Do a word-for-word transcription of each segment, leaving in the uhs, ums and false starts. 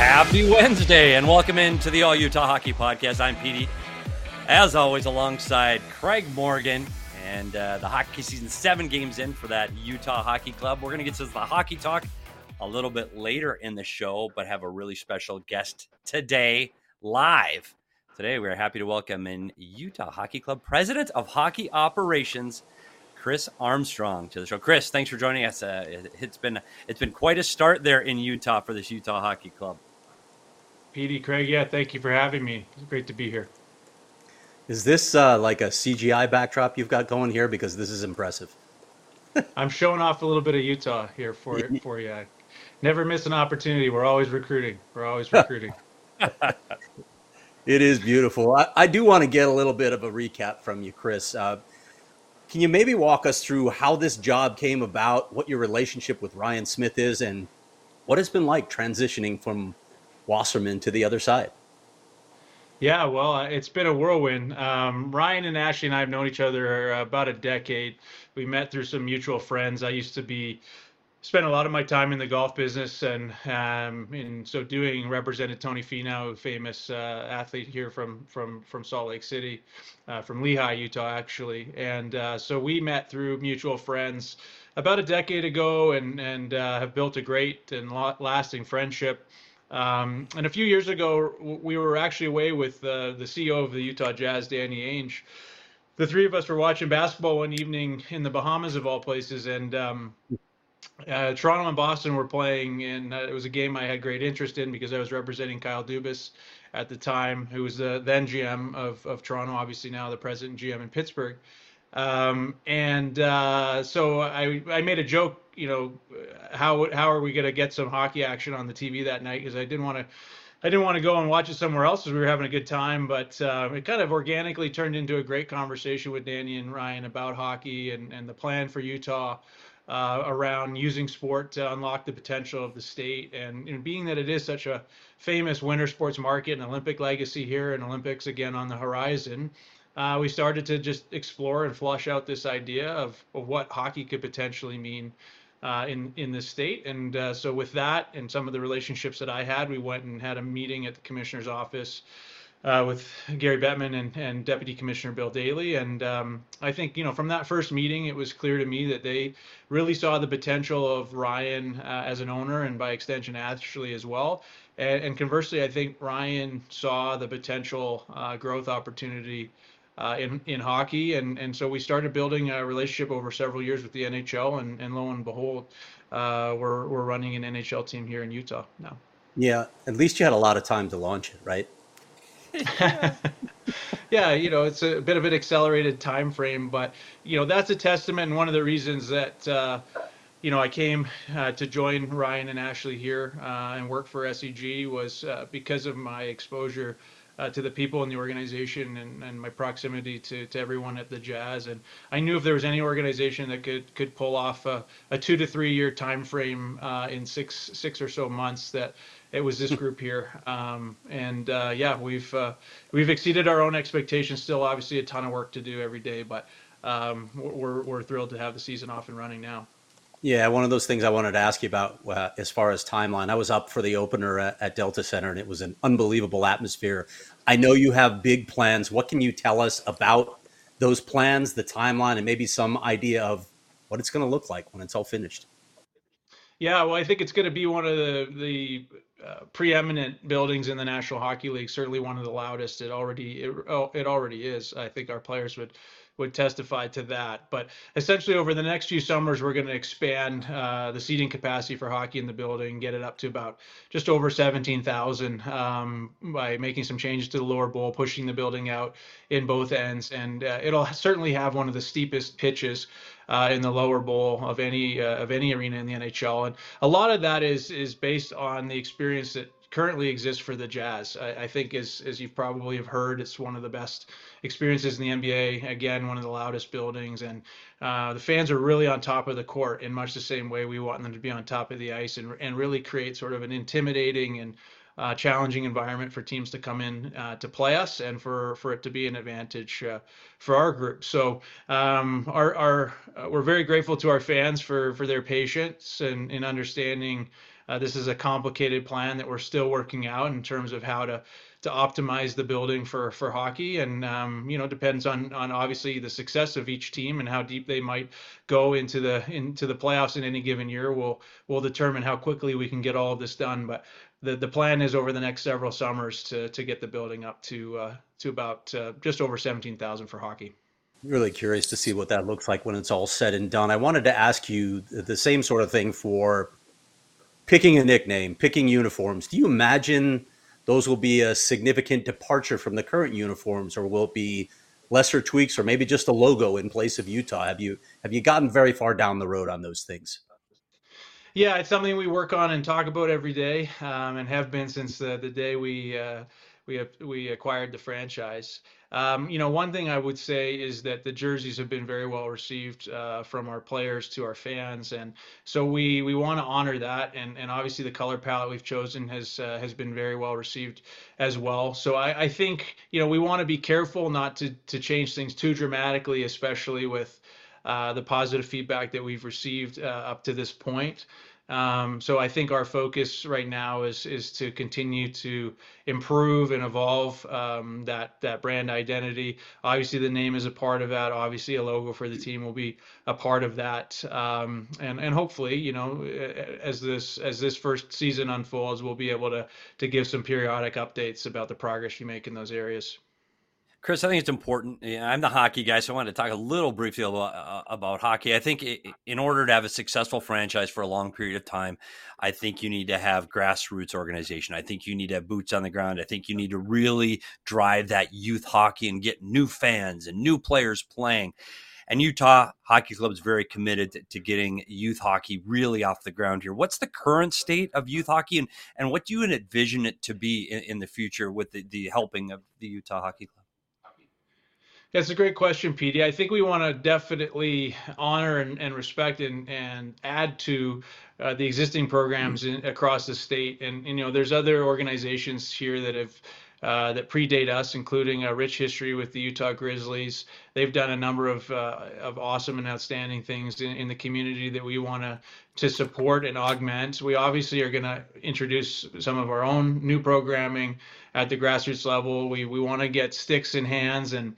Happy Wednesday, and welcome into the All Utah Hockey Podcast. I'm Petey, as always, alongside Craig Morgan, and uh, the hockey season seven games in for that Utah Hockey Club. We're going to get to the hockey talk a little bit later in the show, but have a really special guest today, live. Today, we're happy to welcome in Utah Hockey Club President of Hockey Operations, Chris Armstrong, to the show. Chris, thanks for joining us. Uh, it, it's been it's been quite a start there in Utah for this Utah Hockey Club. Petey, Craig, yeah, thank you for having me. It's great to be here. Is this uh, like a C G I backdrop you've got going here? Because this is impressive. I'm showing off a little bit of Utah here for for you. Never miss an opportunity. We're always recruiting. We're always recruiting. It is beautiful. I, I do want to get a little bit of a recap from you, Chris. Uh, can you maybe walk us through how this job came about, what your relationship with Ryan Smith is, and what it's been like transitioning from Wasserman to the other side? Yeah, well, it's been a whirlwind. Um, Ryan and Ashley and I have known each other about a decade. We met through some mutual friends. I used to be spent a lot of my time in the golf business, and um, in so doing represented Tony Finau, a famous uh, athlete here from from from Salt Lake City, uh, from Lehigh, Utah, actually. And uh, so we met through mutual friends about a decade ago, and and uh, have built a great and lasting friendship. Um, and a few years ago, we were actually away with uh, the C E O of the Utah Jazz, Danny Ainge. The three of us were watching basketball one evening in the Bahamas, of all places, and um, uh, Toronto and Boston were playing, and uh, it was a game I had great interest in because I was representing Kyle Dubas at the time, who was the then G M of, of Toronto, obviously now the president and G M in Pittsburgh. Um, and uh, so I, I made a joke, you know, how how are we going to get some hockey action on the T V that night? Because I didn't want to, I didn't want to go and watch it somewhere else as we were having a good time. But uh, it kind of organically turned into a great conversation with Danny and Ryan about hockey and, and the plan for Utah uh, around using sport to unlock the potential of the state. And, and being that it is such a famous winter sports market and Olympic legacy here, and Olympics again on the horizon. Uh, we started to just explore and flush out this idea of, of what hockey could potentially mean uh, in in this state. And uh, so with that and some of the relationships that I had, we went and had a meeting at the commissioner's office uh, with Gary Bettman and, and Deputy Commissioner Bill Daly. And um, I think, you know, from that first meeting, it was clear to me that they really saw the potential of Ryan uh, as an owner, and by extension, Ashley as well. And, and conversely, I think Ryan saw the potential uh, growth opportunity Uh, in in hockey, and and so we started building a relationship over several years with the N H L, and, and lo and behold, uh, we're we're running an N H L team here in Utah now. Yeah, at least you had a lot of time to launch it, right? Yeah, you know, it's a bit of an accelerated time frame, but you know, that's a testament, and one of the reasons that uh, you know I came uh, to join Ryan and Ashley here uh, and work for S E G was uh, because of my exposure Uh, to the people in the organization, and, and my proximity to, to everyone at the Jazz. And I knew if there was any organization that could could pull off a, a two to three year time frame uh, in six six or so months, that it was this group here. Um, and uh, yeah, we've uh, we've exceeded our own expectations. Still, obviously, a ton of work to do every day, but um, we're we're thrilled to have the season off and running now. Yeah, one of those things I wanted to ask you about uh, as far as timeline. I was up for the opener at, at Delta Center, and it was an unbelievable atmosphere. I know you have big plans. What can you tell us about those plans, the timeline, and maybe some idea of what it's going to look like when it's all finished? Yeah, well, I think it's going to be one of the the uh, preeminent buildings in the National Hockey League. Certainly one of the loudest. It already it, oh, it already is. I think our players would would testify to that. But essentially, over the next few summers, we're going to expand uh, the seating capacity for hockey in the building, get it up to about just over seventeen thousand um, by making some changes to the lower bowl, pushing the building out in both ends, and uh, it'll certainly have one of the steepest pitches Uh, in the lower bowl of any uh, of any arena in the N H L. And a lot of that is is based on the experience that currently exists for the Jazz. I, I think, as as you probably have heard, it's one of the best experiences in the N B A. Again, one of the loudest buildings, and uh, the fans are really on top of the court in much the same way we want them to be on top of the ice, and and really create sort of an intimidating and uh, challenging environment for teams to come in uh, to play us, and for, for it to be an advantage uh, for our group. So um, our, our uh, we're very grateful to our fans for, for their patience and, and understanding Uh, this is a complicated plan that we're still working out in terms of how to to optimize the building for for hockey, and um, you know, depends on on obviously the success of each team and how deep they might go into the into the playoffs in any given year. Will will determine how quickly we can get all of this done. But the the plan is over the next several summers to to get the building up to uh, to about uh, just over seventeen thousand for hockey. Really curious to see what that looks like when it's all said and done. I wanted to ask you the same sort of thing for picking a nickname, picking uniforms. Do you imagine those will be a significant departure from the current uniforms, or will it be lesser tweaks, or maybe just a logo in place of Utah? Have you have you gotten very far down the road on those things? Yeah, it's something we work on and talk about every day, um, and have been since the, the day we uh, we we acquired the franchise. Um, you know, one thing I would say is that the jerseys have been very well received uh, from our players to our fans, and so we we want to honor that. And and obviously the color palette we've chosen has uh, has been very well received as well. So I, I think, you know, we want to be careful not to to change things too dramatically, especially with uh, the positive feedback that we've received uh, up to this point. Um, so I think our focus right now is is to continue to improve and evolve um, that that brand identity. Obviously, the name is a part of that. Obviously, a logo for the team will be a part of that. Um, and and hopefully, you know, as this as this first season unfolds, we'll be able to to give some periodic updates about the progress you make in those areas. Chris, I think it's important. I'm the hockey guy, so I wanted to talk a little briefly about, uh, about hockey. I think it, in order to have a successful franchise for a long period of time, I think you need to have grassroots organization. I think you need to have boots on the ground. I think you need to really drive that youth hockey and get new fans and new players playing. And Utah Hockey Club is very committed to, to getting youth hockey really off the ground here. What's the current state of youth hockey, and, and what do you envision it to be in, in the future with the, the helping of the Utah Hockey Club? That's a great question, Petey. I think we want to definitely honor and, and respect and, and add to uh, the existing programs in, across the state. And, and, you know, there's other organizations here that have uh, that predate us, including a rich history with the Utah Grizzlies. They've done a number of uh, of awesome and outstanding things in, in the community that we want to to support and augment. We obviously are going to introduce some of our own new programming at the grassroots level. We we want to get sticks in hands and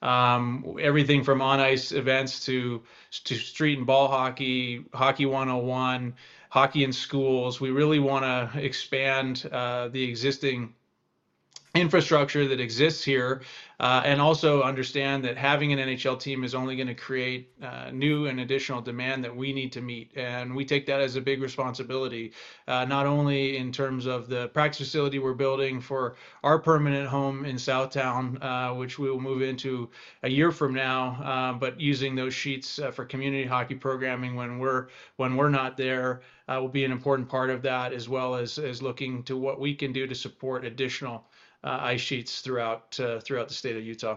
Um, everything from on-ice events to to street and ball hockey, hockey one oh one, hockey in schools. We really want to expand uh, the existing infrastructure that exists here, uh, and also understand that having an N H L team is only going to create uh, new and additional demand that we need to meet. And we take that as a big responsibility, uh, not only in terms of the practice facility we're building for our permanent home in Southtown, uh, which we will move into a year from now, uh, but using those sheets uh, for community hockey programming when we're when we're not there uh, will be an important part of that, as well as as looking to what we can do to support additional Uh, ice sheets throughout uh, throughout the state of Utah.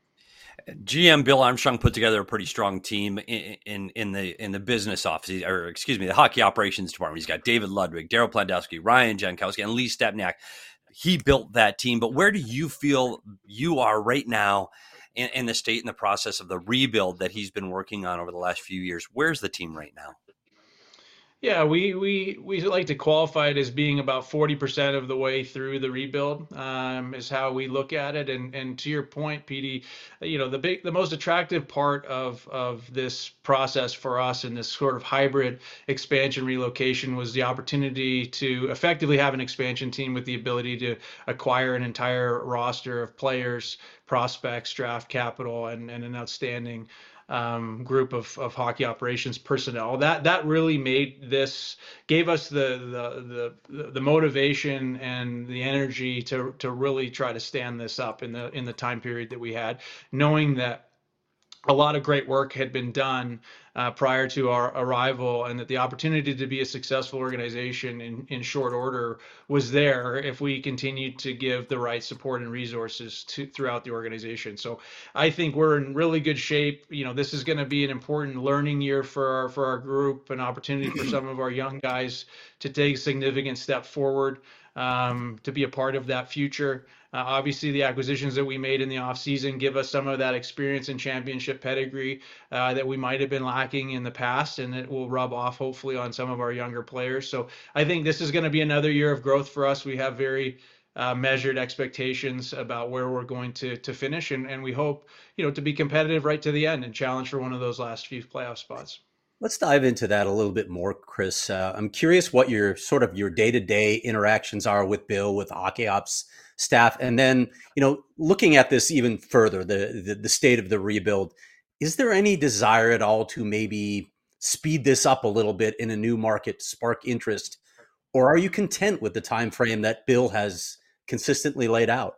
G M Bill Armstrong put together a pretty strong team in in, in the in the business office, or excuse me, the hockey operations department. He's got David Ludwig, Daryl Plandowski, Ryan Jankowski, and Lee Stepniak. He built that team. But where do you feel you are right now in, in the state and the process of the rebuild that he's been working on over the last few years? Where's the team right now? Yeah, we we we like to qualify it as being about forty percent of the way through the rebuild, um, is how we look at it. And and to your point, Petey, you know, the big the most attractive part of of this process for us in this sort of hybrid expansion relocation was the opportunity to effectively have an expansion team with the ability to acquire an entire roster of players, prospects, draft capital, and, and an outstanding Um, group of, of hockey operations personnel. That that really made this, gave us the the the, the motivation and the energy to to really try to stand this up in the in the time period that we had, knowing that a lot of great work had been done uh, prior to our arrival, and that the opportunity to be a successful organization in, in short order was there if we continued to give the right support and resources to throughout the organization. So I think we're in really good shape. You know, this is going to be an important learning year for our, for our group, an opportunity for some of our young guys to take a significant step forward, um, to be a part of that future. Uh, obviously, the acquisitions that we made in the offseason give us some of that experience and championship pedigree uh, that we might have been lacking in the past, and it will rub off hopefully on some of our younger players. So I think this is going to be another year of growth for us. We have very uh, measured expectations about where we're going to to finish, and, and we hope, you know, to be competitive right to the end and challenge for one of those last few playoff spots. Let's dive into that a little bit more, Chris. Uh, I'm curious what your sort of your day-to-day interactions are with Bill, with hockey ops staff, and then, you know, looking at this even further, the, the the state of the rebuild. Is there any desire at all to maybe speed this up a little bit in a new market, spark interest, or are you content with the time frame that Bill has consistently laid out?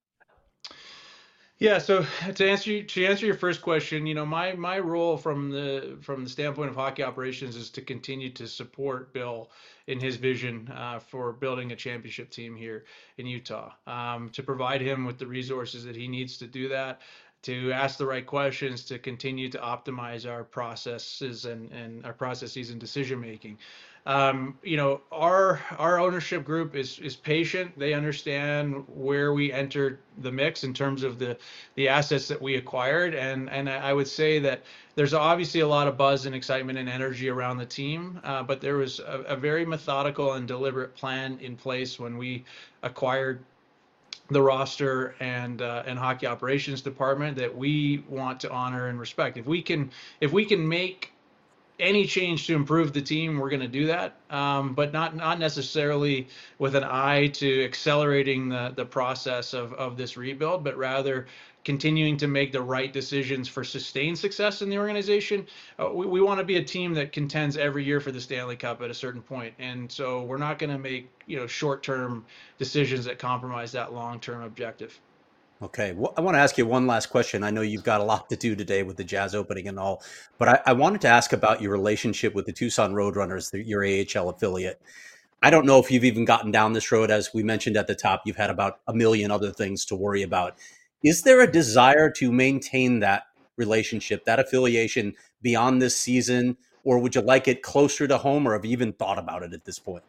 Yeah, so to answer you, to answer your first question, you know, my my role from the from the standpoint of hockey operations is to continue to support Bill in his vision uh, for building a championship team here in Utah, um, to provide him with the resources that he needs to do that, to ask the right questions, to continue to optimize our processes and, and our processes and decision making. Um, you know, our our ownership group is is patient. They understand where we entered the mix in terms of the the assets that we acquired, and and I would say that there's obviously a lot of buzz and excitement and energy around the team, uh, but there was a, a very methodical and deliberate plan in place when we acquired the roster and uh, and hockey operations department that we want to honor and respect. If we can if we can make any change to improve the team, we're going to do that, um, but not not necessarily with an eye to accelerating the the process of of this rebuild, but rather continuing to make the right decisions for sustained success in the organization. Uh, we we want to be a team that contends every year for the Stanley Cup at a certain point, and so we're not going to make, you know, short-term decisions that compromise that long-term objective. Okay. Well, I want to ask you one last question. I know you've got a lot to do today with the Jazz opening and all, but I, I wanted to ask about your relationship with the Tucson Roadrunners, the, your A H L affiliate. I don't know if you've even gotten down this road. As we mentioned at the top, you've had about a million other things to worry about. Is there a desire to maintain that relationship, that affiliation beyond this season, or would you like it closer to home, or have you even thought about it at this point?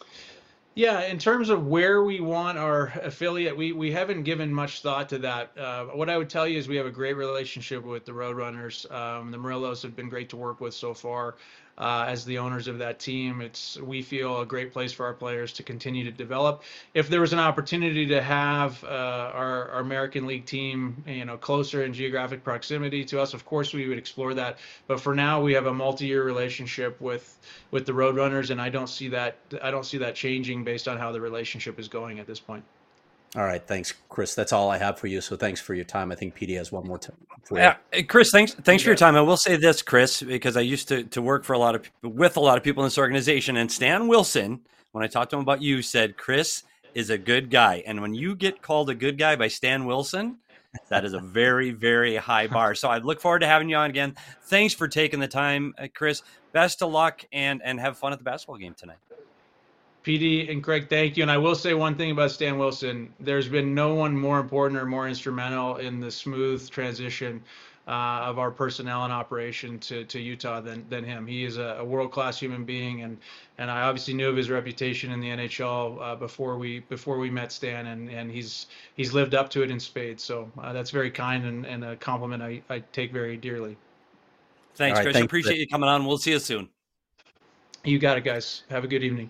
Yeah, in terms of where we want our affiliate, we we haven't given much thought to that. Uh, what I would tell you is we have a great relationship with the Roadrunners. Um, the Murillos have been great to work with so far. Uh, as the owners of that team, it's we feel a great place for our players to continue to develop. If there was an opportunity to have uh, our, our American League team, you know, closer in geographic proximity to us, of course we would explore that. But for now, we have a multi-year relationship with with the Roadrunners, and I don't see that I don't see that changing based on how the relationship is going at this point. All right. Thanks, Chris. That's all I have for you. So thanks for your time. I think P D has one more time. Yeah, Chris, thanks thanks for your time. I will say this, Chris, because I used to, to work for a lot of with a lot of people in this organization, and Stan Wilson, when I talked to him about you, said Chris is a good guy. And when you get called a good guy by Stan Wilson, that is a very, very high bar. So I look forward to having you on again. Thanks for taking the time, Chris. Best of luck, and and have fun at the basketball game tonight. P D and Craig, thank you. And I will say one thing about Stan Wilson. There's been no one more important or more instrumental in the smooth transition uh, of our personnel and operation to, to Utah than than him. He is a, a world-class human being, and and I obviously knew of his reputation in the N H L uh, before we before we met Stan, and, and he's he's lived up to it in spades. So uh, that's very kind and, and a compliment I, I take very dearly. Thanks, right, Chris. thanks, Appreciate Chris. you coming on. We'll see you soon. You got it, guys. Have a good evening.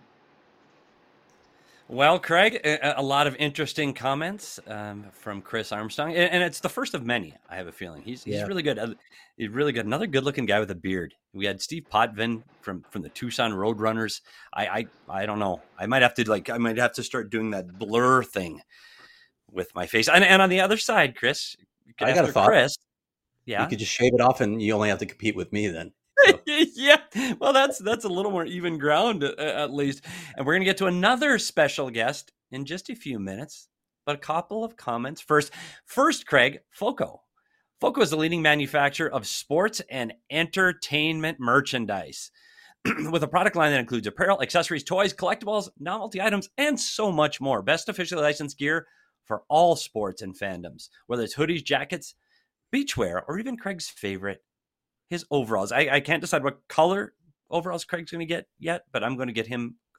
Well, Craig, a, a lot of interesting comments um, from Chris Armstrong, and, and it's the first of many. I have a feeling he's he's Yeah. really good. Uh, He's really good. Another good-looking guy with a beard. We had Steve Potvin from from the Tucson Roadrunners. I I I don't know. I might have to like I might have to start doing that blur thing with my face. And and on the other side, Chris, I got a after thought. Chris, You yeah, could just shave it off, and you only have to compete with me then. So, yeah. Well, that's that's a little more even ground uh, at least. And we're going to get to another special guest in just a few minutes. But a couple of comments first. First, Craig, Foco. Foco is the leading manufacturer of sports and entertainment merchandise with a product line that includes apparel, accessories, toys, collectibles, novelty items, and so much more. Best officially licensed gear for all sports and fandoms, whether it's hoodies, jackets, beachwear, or even Craig's favorite, his overalls. I, I can't decide what color overalls Craig's going to get yet, but I'm going to get him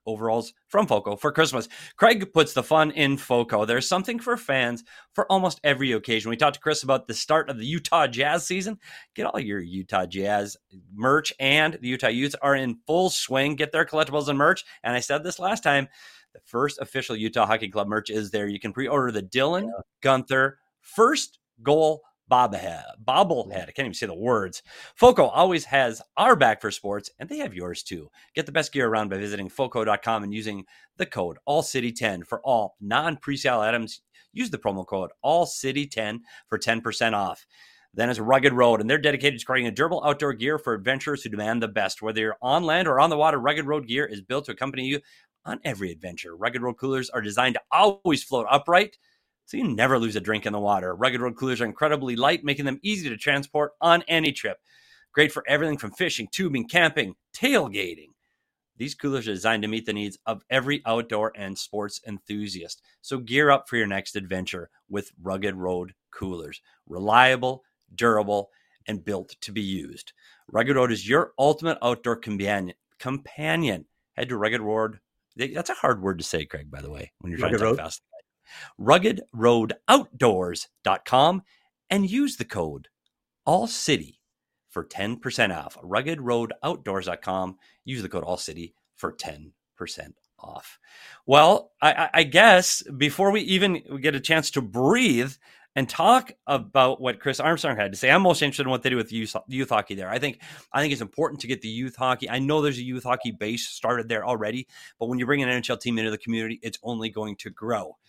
overalls from Foco for Christmas. Craig puts the fun in Foco. There's something for fans for almost every occasion. We talked to Chris about the start of the Utah Jazz season. Get all your Utah Jazz merch, and the Utah Utes are in full swing. Get their collectibles and merch. And I said this last time, the first official Utah Hockey Club merch is there. You can pre-order the Dylan yeah. Gunther first goal bobblehead. Bobblehead. I can't even say the words. Foco always has our back for sports, and they have yours too. Get the best gear around by visiting foco dot com and using the code all city ten for all non-presale items. Use the promo code all city ten for ten percent off. Then is Rugged Road, and they're dedicated to creating a durable outdoor gear for adventurers who demand the best. Whether you're on land or on the water, Rugged Road gear is built to accompany you on every adventure. Rugged Road coolers are designed to always float upright, so you never lose a drink in the water. Rugged Road coolers are incredibly light, making them easy to transport on any trip. Great for everything from fishing, tubing, camping, tailgating. These coolers are designed to meet the needs of every outdoor and sports enthusiast. So gear up for your next adventure with Rugged Road coolers. Reliable, durable, and built to be used. Rugged Road is your ultimate outdoor companion. companion. Head to Rugged Road. That's a hard word to say, Craig, by the way, when you're trying Rugged to type Road? fast. rugged road outdoors dot com and use the code ALLCITY for ten percent off. rugged road outdoors dot com. Use the code ALLCITY for ten percent off. Well, I, I guess before we even get a chance to breathe and talk about what Chris Armstrong had to say, I'm most interested in what they do with youth, youth hockey there. I think I think it's important to get the youth hockey. I know there's a youth hockey base started there already, but when you bring an N H L team into the community, it's only going to grow.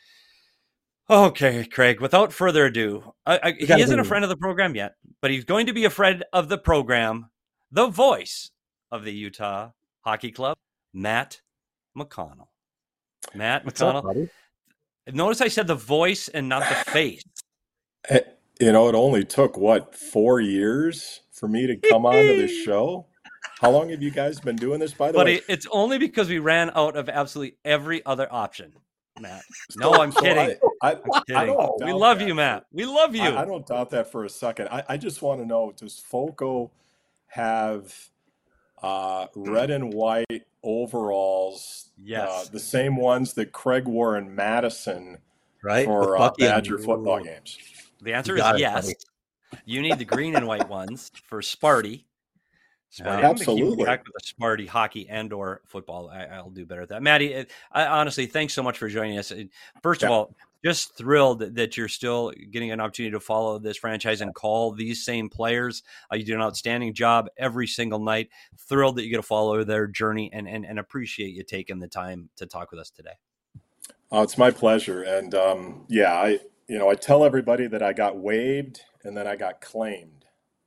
Okay, Craig, without further ado, I, I, he isn't a friend of the program yet, but he's going to be a friend of the program, the voice of the Utah Hockey Club, Matt McConnell. Matt What's McConnell. up, buddy? Notice I said the voice and not the face. You know, it only took, what, four years for me to come onto this show? How long have you guys been doing this, by the but way? It, it's only because we ran out of absolutely every other option. Matt. No, I'm So kidding. I, I, I'm kidding. I don't We doubt love that. you, Matt. We love you. I, I don't doubt that for a second. I, I just want to know, does Foco have uh, red and white overalls, Yes. uh, the same ones that Craig wore in Madison Right? for With uh, Bucky and- Badger football games? The answer You is got it, yes. buddy. You need the green and white ones for Sparty. Sparty. Yeah, I'm gonna keep absolutely. track with the Sparty hockey and or football. I, I'll do better at that. Maddie, it- I, honestly, thanks so much for joining us. It- First of Yeah. all, just thrilled that, that you're still getting an opportunity to follow this franchise and call these same players. Uh, you do an outstanding job every single night. Thrilled that you get to follow their journey and, and, and appreciate you taking the time to talk with us today. Oh, it's my pleasure. And um, yeah, I you know I tell everybody that I got waived and then I got claimed.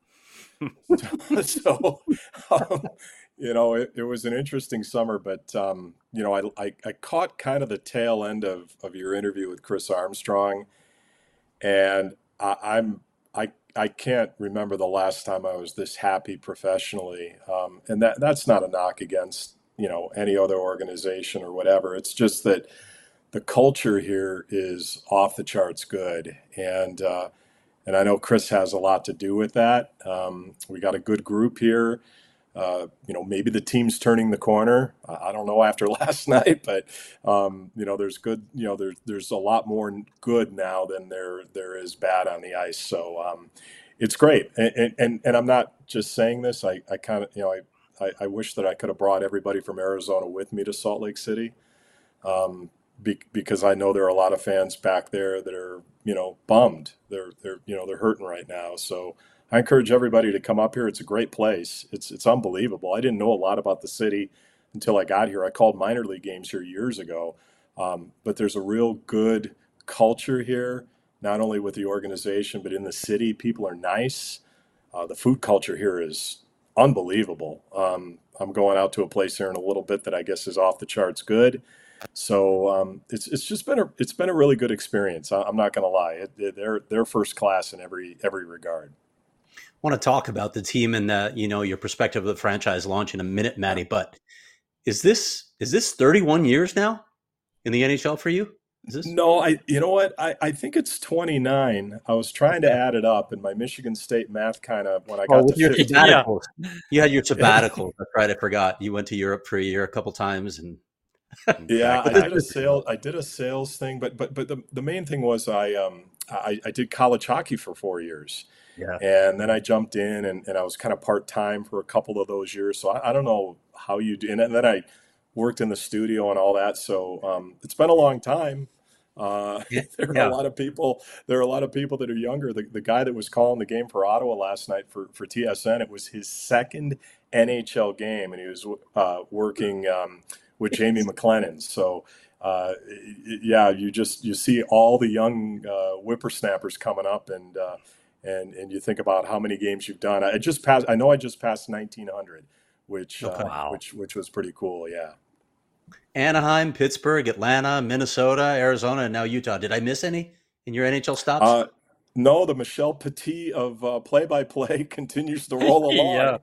so um, you know it, it was an interesting summer, but um, you know I, I I caught kind of the tail end of of your interview with Chris Armstrong, and I, I'm I I can't remember the last time I was this happy professionally, um, and that that's not a knock against you know any other organization or whatever. It's just that the culture here is off the charts good, and uh, and I know Chris has a lot to do with that. Um, we got a good group here. Uh, you know, maybe the team's turning the corner. I I don't know after last night, but um, you know, there's good. You know, there's there's a lot more good now than there there is bad on the ice. So um, it's great, and, and and I'm not just saying this. I I kind of you know I, I I wish that I could have brought everybody from Arizona with me to Salt Lake City. Um, Be, because I know there are a lot of fans back there that are, you know, bummed. They're, they're, you know, they're hurting right now. So I encourage everybody to come up here. It's a great place. It's, it's unbelievable. I didn't know a lot about the city until I got here. I called minor league games here years ago. Um, but there's a real good culture here, not only with the organization, but in the city. People are nice. Uh, the food culture here is unbelievable. Um, I'm going out to a place here in a little bit that I guess is off the charts good. So um, it's it's just been a it's been a really good experience. I, I'm not going to lie; it, it, they're they're first class in every every regard. I want to talk about the team and uh, you know your perspective of the franchise launch in a minute, Matty. But is this is this thirty-one years now in the N H L for you? Is this No, I you know what I, I think it's twenty-nine. I was trying to add it up, and my Michigan State math kind of when I got oh, with to your fifteen. sabbaticals? You had your sabbaticals. That's right. I forgot. You went to Europe for a year a couple times, and Yeah, I Exactly. did a sale. I did a sales thing, but but but the the main thing was I um I, I did college hockey for four years, Yeah. and then I jumped in and, and I was kind of part time for a couple of those years. So I, I don't know how you do. And then I worked in the studio and all that. So um, it's been a long time. Uh, Yeah. there are a Yeah. lot of people. There are a lot of people that are younger. The, the guy that was calling the game for Ottawa last night for for T S N, it was his second N H L game, and he was uh, working um, with Jamie McLennan. So. Uh, yeah, you just you see all the young uh, whippersnappers coming up, and uh, and and you think about how many games you've done. I just passed. I know I just passed nineteen hundred, which Okay. uh, Wow. which which was pretty cool. Yeah. Anaheim, Pittsburgh, Atlanta, Minnesota, Arizona, and now Utah. Did I miss any in your N H L stops? Uh, no, the Michel Petit of uh, play-by-play continues to roll along. Yeah.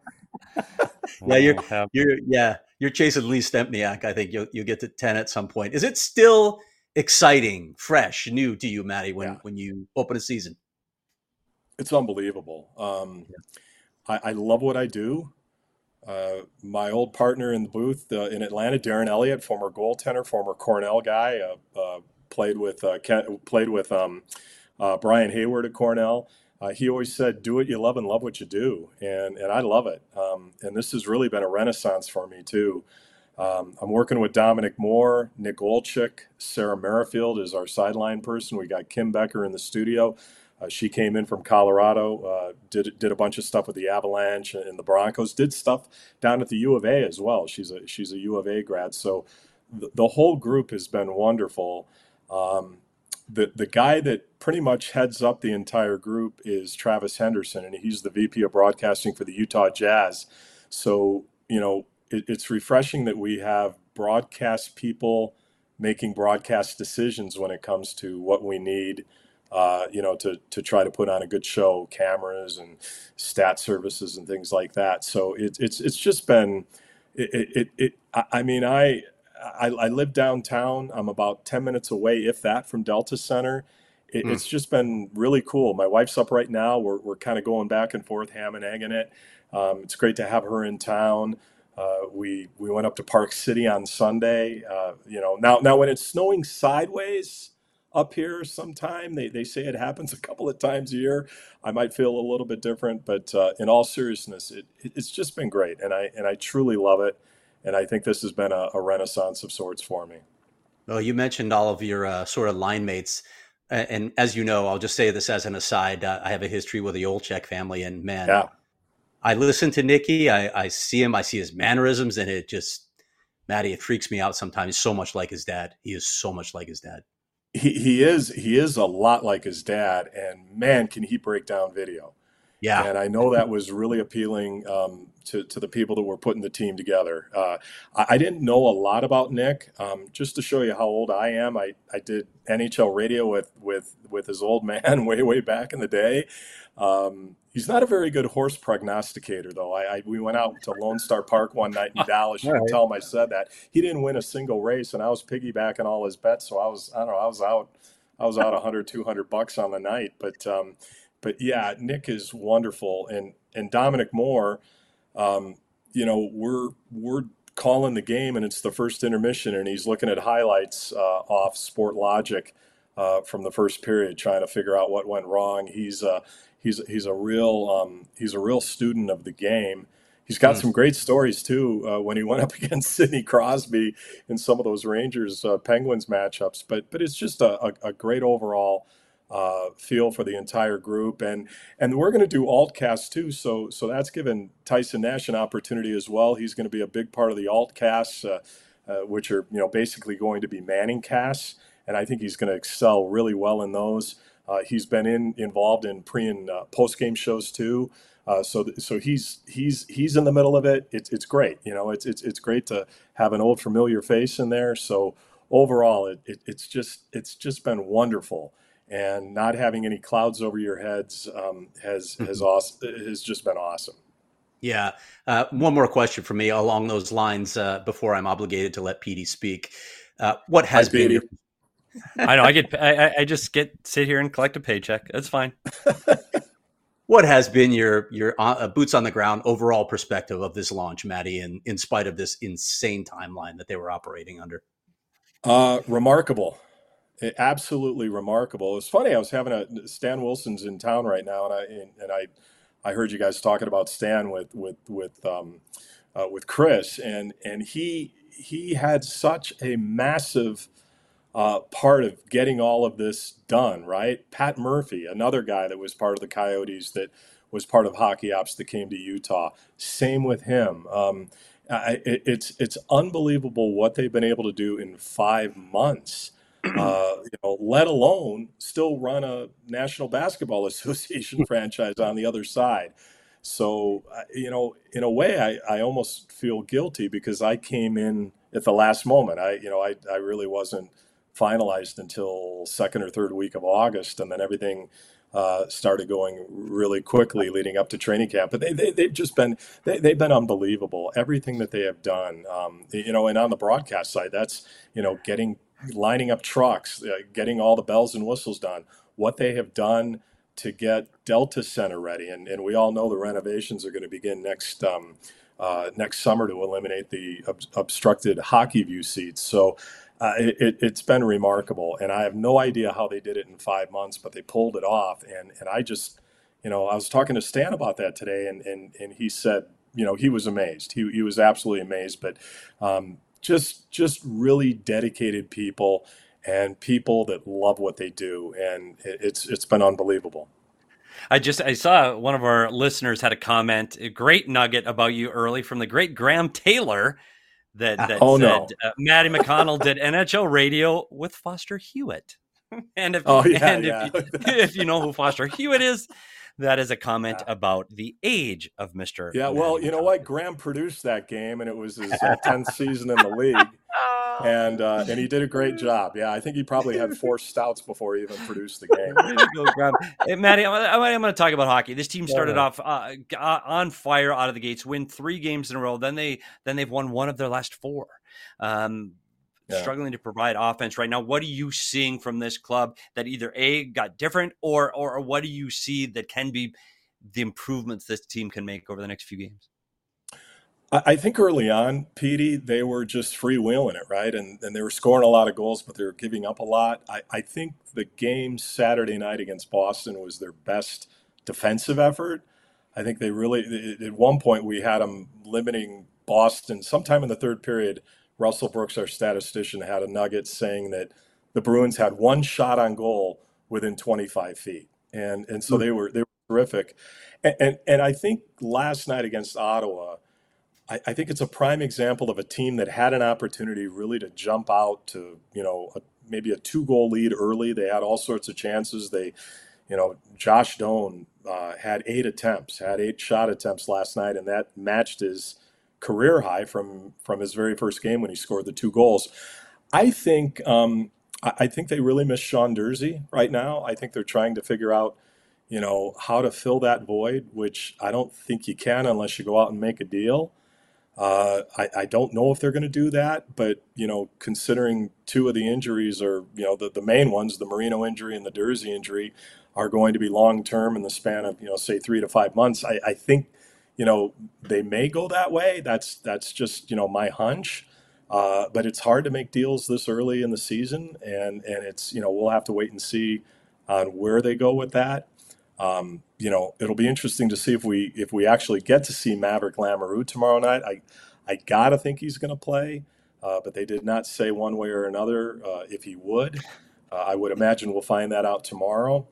Yeah, you're Oh, have- you're yeah you're chasing Lee Stempniak. I think you'll you get to ten at some point. Is it still exciting, fresh, new to you, Matty, when Yeah. when you open a season? It's unbelievable. Um, I, I love what I do. Uh, my old partner in the booth uh, in Atlanta, Darren Elliott, former goaltender, former Cornell guy, uh, uh, played with uh, Ken, played with um, uh, Brian Hayward at Cornell. Uh, he always said, "Do what you love and love what you do," and and I love it. Um, and this has really been a renaissance for me too. Um, I'm working with Dominic Moore, Nick Olczyk, Sarah Merrifield is our sideline person. We got Kim Becker in the studio. Uh, she came in from Colorado, uh, did did a bunch of stuff with the Avalanche and the Broncos. Did stuff down at the U of A as well. She's a she's a U of A grad. So the, the whole group has been wonderful. Um, the the guy that pretty much heads up the entire group is Travis Henderson, and he's the V P of broadcasting for the Utah Jazz. So you know it, it's refreshing that we have broadcast people making broadcast decisions when it comes to what we need. Uh, you know, to, to try to put on a good show, cameras and stat services and things like that. So it, it's it's just been, it, it, it I mean, I, I I live downtown. I'm about ten minutes away, if that, from Delta Center. It, Mm. It's just been really cool. My wife's up right now. We're we're kind of going back and forth, ham and egging it. Um, it's great to have her in town. Uh, we we went up to Park City on Sunday. Uh, you know, now now when it's snowing sideways up here sometime, they, they say it happens a couple of times a year, I might feel a little bit different, but uh, in all seriousness, it, it, it's just been great, and I and I truly love it, and I think this has been a, a renaissance of sorts for me. Well, you mentioned all of your uh, sort of line mates, and, and as you know, I'll just say this as an aside. Uh, I have a history with the Olczyk family, and man, Yeah, I listen to Nicky. I, I see him. I see his mannerisms, and it just, Matty, it freaks me out sometimes. So much like his dad. He is so much like his dad. he he is he is a lot like his dad, and man, can he break down video. Yeah. And I know that was really appealing um, to, to the people that were putting the team together. Uh, I, I didn't know a lot about Nick. Um, just to show you how old I am, I, I did N H L radio with, with, with his old man way, way back in the day. Um, he's not a very good horse prognosticator, though. I, I We went out to Lone Star Park one night in Dallas. You All can right. tell him I said that. He didn't win a single race, and I was piggybacking all his bets. So I was, I don't know, I was out, I was out one hundred, two hundred bucks on the night. But um, But yeah, Nick is wonderful, and and Dominic Moore, um, you know, we're we're calling the game, and it's the first intermission, and he's looking at highlights uh, off Sport Logic uh, from the first period, trying to figure out what went wrong. He's uh, he's he's a real um, he's a real student of the game. He's got Mm. some great stories too uh, when he went up against Sidney Crosby in some of those Rangers uh, Penguins matchups. But but it's just a, a, a great overall uh, feel for the entire group, and and we're going to do altcast too. So so that's given Tyson Nash an opportunity as well. He's going to be a big part of the altcasts, uh, uh, which are you know basically going to be manning casts, and I think he's going to excel really well in those. Uh, he's been in involved in pre and uh, post game shows too. Uh, so, th- so he's he's he's in the middle of it. It's it's great, you know. It's it's it's great to have an old familiar face in there. So overall, it, it it's just it's just been wonderful, and not having any clouds over your heads um, has has awesome, has just been awesome. Yeah. Uh, one more question for me along those lines uh, before I'm obligated to let Petey speak. Uh, what has Hi, been Petey. your, I know. I get. I, I just get sit here and collect a paycheck. That's fine. what has been your your uh, boots on the ground overall perspective of this launch, Matty, in, in spite of this insane timeline that they were operating under? Uh, remarkable. Eh, absolutely remarkable. It's funny. I was having a Stan Wilson's in town right now, and I and, and I I heard you guys talking about Stan with with with um, uh, with Chris, and and he he had such a massive uh, part of getting all of this done. Right, Pat Murphy, another guy that was part of the Coyotes that was part of Hockey Ops that came to Utah. Same with him. Um, I, it, it's it's unbelievable what they've been able to do in five months. Uh, you know, let alone still run a National Basketball Association franchise on the other side. So, uh, you know, in a way, I, I almost feel guilty because I came in at the last moment. I, you know, I, I really wasn't finalized until second or third week of August, and then everything uh, started going really quickly leading up to training camp. But they, they, they've just been, they, they've been unbelievable. Everything that they have done, um, you know, and on the broadcast side, that's, you know, getting, lining up trucks, uh, getting all the bells and whistles done, what they have done to get Delta Center ready. And, and we all know the renovations are going to begin next, um, uh, next summer to eliminate the ob- obstructed hockey view seats. So, Uh, it, it's been remarkable, and I have no idea how they did it in five months, but they pulled it off. And, and I just, you know, I was talking to Stan about that today, and, and, and he said, you know, he was amazed. He, he was absolutely amazed, but um, just just really dedicated people and people that love what they do, and it, it's it's been unbelievable. I just I saw one of our listeners had a comment, a great nugget about you early from the great Graham Taylor. That, that oh, said, no. uh, Matty McConnell did N H L radio with Foster Hewitt. And if, oh, yeah, and yeah. if, you, if you know who Foster Hewitt is, that is a comment yeah. about the age of Mister Yeah, Matty well, McConnell. you know what? Graham produced that game, and it was his uh, tenth season in the league. And uh, and he did a great job. Yeah, I think he probably had four stouts before he even produced the game. Go, Graham. Hey, Matty, I'm, I'm going to talk about hockey. This team started yeah. off uh, on fire out of the gates, win three games in a row. Then they then they've won one of their last four. Um, yeah. Struggling to provide offense right now. What are you seeing from this club that either A, got different, or or what do you see that can be the improvements this team can make over the next few games? I think early on, Petey, they were just freewheeling it, right? And and they were scoring a lot of goals, but they were giving up a lot. I, I think the game Saturday night against Boston was their best defensive effort. I think they really, at one point, we had them limiting Boston. Sometime in the third period, Russell Brooks, our statistician, had a nugget saying that the Bruins had one shot on goal within twenty-five feet. And and so they were they were terrific. And and, and I think last night against Ottawa, I, I think it's a prime example of a team that had an opportunity really to jump out to, you know, a, maybe a two-goal lead early. They had all sorts of chances. They, you know, Josh Doan uh, had eight attempts, had eight shot attempts last night, and that matched his career high from from his very first game when he scored the two goals. I think um, I, I think they really miss Sean Durzi right now. I think they're trying to figure out, you know, how to fill that void, which I don't think you can unless you go out and make a deal. Uh, I, I don't know if they're going to do that, but, you know, considering two of the injuries are, you know, the, the main ones, the Marino injury and the Durzi injury, are going to be long-term in the span of, you know, say three to five months. I, I think, you know, they may go that way. That's, that's just, you know, my hunch. Uh, but it's hard to make deals this early in the season. And, and it's, you know, we'll have to wait and see on where they go with that. Um, you know, it'll be interesting to see if we if we actually get to see Maverick Lamoureux tomorrow night. I I gotta think he's going to play, uh, but they did not say one way or another uh, if he would. Uh, I would imagine we'll find that out tomorrow.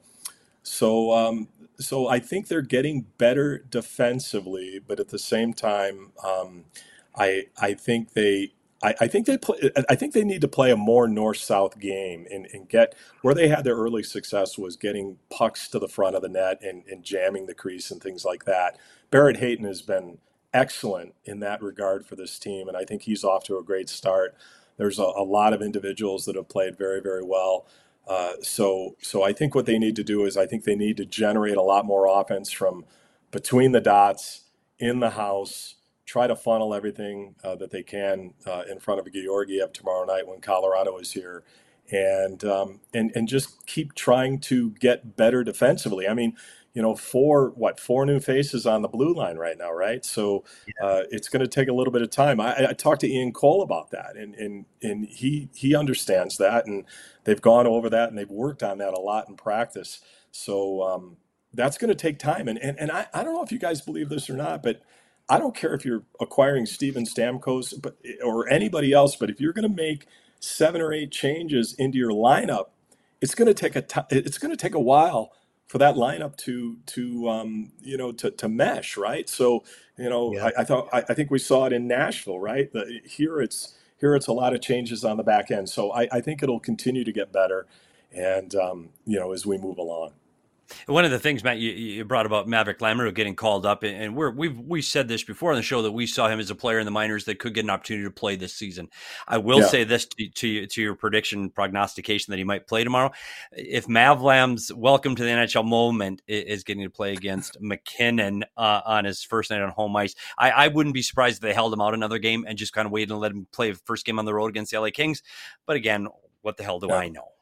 So um, so I think they're getting better defensively, but at the same time, um, I I think they. I, I think they play. I think they need to play a more north-south game and, and get where they had their early success was getting pucks to the front of the net and, and jamming the crease and things like that. Barrett Hayton has been excellent in that regard for this team, and I think he's off to a great start. There's a, a lot of individuals that have played very, very well. Uh, so, so I think what they need to do is I think they need to generate a lot more offense from between the dots in the house. Try to funnel everything uh, that they can uh, in front of Georgiev tomorrow night when Colorado is here, and um, and and just keep trying to get better defensively. I mean, you know, four, what, four new faces on the blue line right now, right? So uh, it's going to take a little bit of time. I, I talked to Ian Cole about that, and, and, and he, he understands that, and they've gone over that, and they've worked on that a lot in practice. So um, that's going to take time. And, and, and I, I don't know if you guys believe this or not, but I don't care if you're acquiring Steven Stamkos but, or anybody else, but if you're going to make seven or eight changes into your lineup, it's going to take a t- it's going to take a while for that lineup to to um, you know to, to mesh, right? So you know Yeah. I, I thought I, I think we saw it in Nashville, right? The, here it's here it's a lot of changes on the back end. So I, I think it'll continue to get better, and um, you know as we move along. One of the things, Matt, you, you brought about Maverick Lamoureux getting called up, and we're, we've we said this before on the show that we saw him as a player in the minors that could get an opportunity to play this season. I will Yeah. say this to, to to your prediction prognostication that he might play tomorrow. If Mavlam's welcome to the N H L moment is getting to play against McKinnon uh, on his first night on home ice, I, I wouldn't be surprised if they held him out another game and just kind of waited and let him play the first game on the road against the L A Kings. But again, what the hell do Yeah. I know?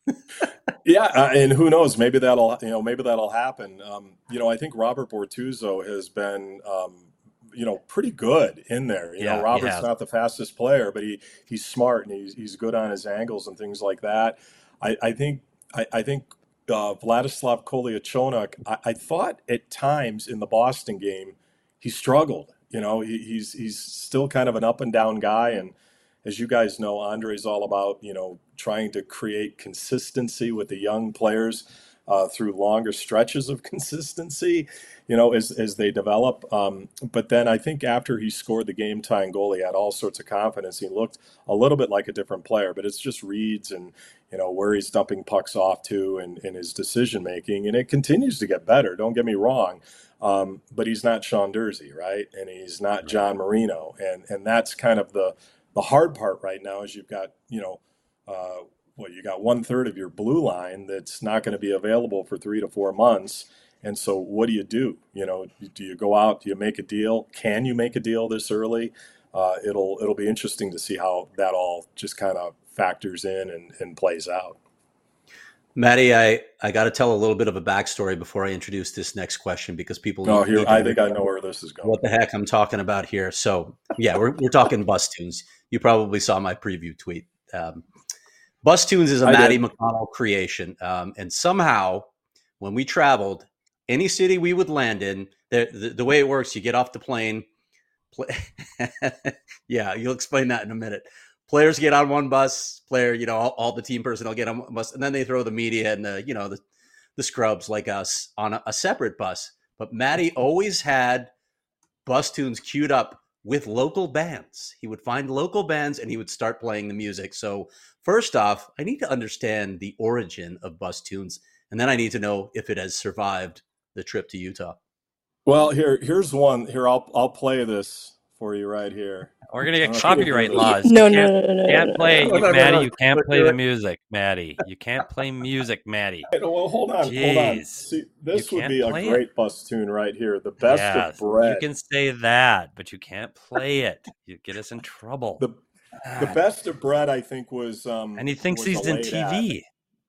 Yeah, uh, and who knows? Maybe that'll you know maybe that'll happen. Um, you know, I think Robert Bortuzzo has been um, you know pretty good in there. You Yeah, know, he Robert's has. not the fastest player, but he he's smart and he's he's good on his angles and things like that. I, I think I, I think uh, Vladislav Kolyachonok. I, I thought at times in the Boston game he struggled. You know, he, he's he's still kind of an up and down guy, and as you guys know, Andre's all about, you know, trying to create consistency with the young players uh, through longer stretches of consistency, you know, as, as they develop. Um, but then I think after he scored the game-tying goal, he had all sorts of confidence. He looked a little bit like a different player, but it's just reads and, you know, where he's dumping pucks off to and, and his decision-making. And it continues to get better, don't get me wrong. Um, but he's not Sean Durzi, right? And he's not John Marino. And, and that's kind of the The hard part right now is you've got, you know, uh, well, you got one third of your blue line that's not going to be available for three to four months. And so what do you do? You know, do you go out? Do you make a deal? Can you make a deal this early? Uh, it'll it'll be interesting to see how that all just kind of factors in and, and plays out. Matty, I, I got to tell a little bit of a backstory before I introduce this next question because people. Oh, need here to I think I know where this is going. What the heck I'm talking about here. So yeah, we're we're talking Bus Tunes. You probably saw my preview tweet. Um, Bus Tunes is a I Matty did. McConnell creation, um, and somehow when we traveled, any city we would land in, the, the, the way it works, you get off the plane. Play, yeah, you'll explain that in a minute. Players get on one bus, player, you know, all, all the team personnel get on one bus, and then they throw the media and the, you know, the, the scrubs like us on a, a separate bus. But Matty always had Bus Tunes queued up with local bands. He would find local bands and he would start playing the music. So first off, I need to understand the origin of Bus Tunes, and then I need to know if it has survived the trip to Utah. Well, here here's one. Here I'll I'll play this for you right here. We're gonna get Uh, copyright laws. No, You no, can't- no, no, no, Can't no, play, no, no, no, Maddie. no. You can't But play do the it. music, Maddie. You can't play music, Maddie. Well, hold on, hold on. Jeez. See, this You would can't be a play it. great bus tune right here. The best Yes, of bread. you can say that, but you can't play it. You get us in trouble. The the God. best of bread, I think, was um. And he thinks was he's a in late T ad. V.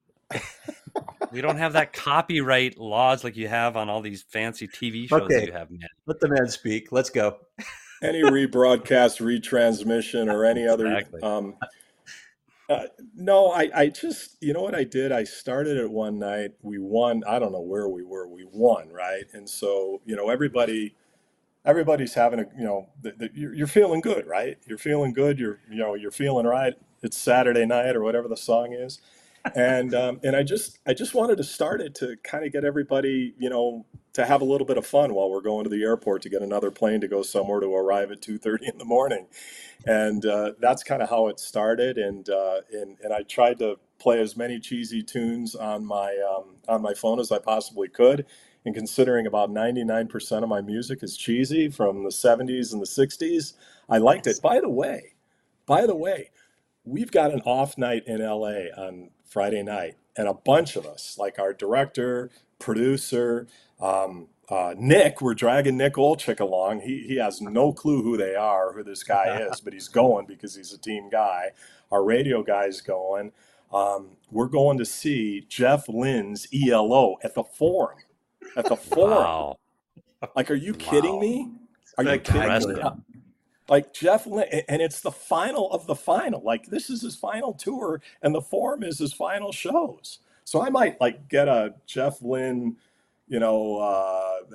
We don't have that copyright laws like you have on all these fancy T V shows Okay. that you have, man. Let the man speak. Let's go. Any rebroadcast, retransmission, or any other. Exactly. Um, uh, no, I, I just, you know what I did? I started it one night. We won. I don't know where we were. We won, right? And so, you know, everybody, everybody's having a, you know, the, the, you're, you're feeling good, right? You're feeling good. You're, you know, you're feeling right. It's Saturday night or whatever the song is. And um, and I just I just wanted to start it to kind of get everybody, you know, to have a little bit of fun while we're going to the airport to get another plane to go somewhere to arrive at two thirty in the morning. And uh, that's kind of how it started. And, uh, and and I tried to play as many cheesy tunes on my um, on my phone as I possibly could. And considering about ninety-nine percent of my music is cheesy from the seventies and the sixties, I liked it. By the way, by the way, we've got an off night in L A on Friday night, and a bunch of us, like our director, producer, um, uh, Nick, we're dragging Nick Olczyk along. He he has no clue who they are, who this guy is, but he's going because he's a team guy. Our radio guy's going. Um, we're going to see Jeff Lynne's E L O at the Forum. at the Forum. Wow. Like, are you kidding Wow. me? Are you kidding me? Impressive. Uh, Like Jeff Lynne, and it's the final of the final. Like, this is his final tour, and the Forum is his final shows. So I might like get a Jeff Lynne, you know, uh,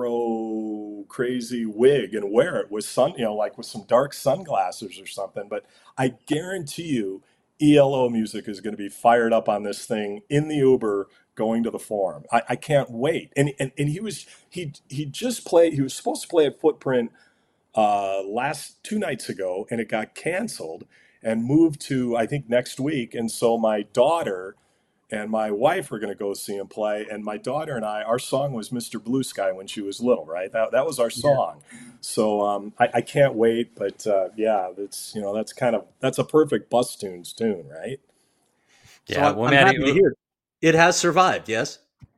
Afro crazy wig and wear it with sun, you know, like with some dark sunglasses or something. But I guarantee you, E L O music is going to be fired up on this thing in the Uber going to the Forum. I, I can't wait. And, and and he was he he just played. He was supposed to play at Footprint uh, last two nights ago, and it got canceled and moved to I think next week. And so my daughter and my wife were going to go see him play. And my daughter and I, our song was Mister Blue Sky when she was little, right? That that was our song. So um, I, I can't wait. But uh, yeah, that's you know that's kind of that's a perfect Bus Tunes tune, right? So Yeah, I'm, well, I'm Maddie, happy to hear it has survived. Yes.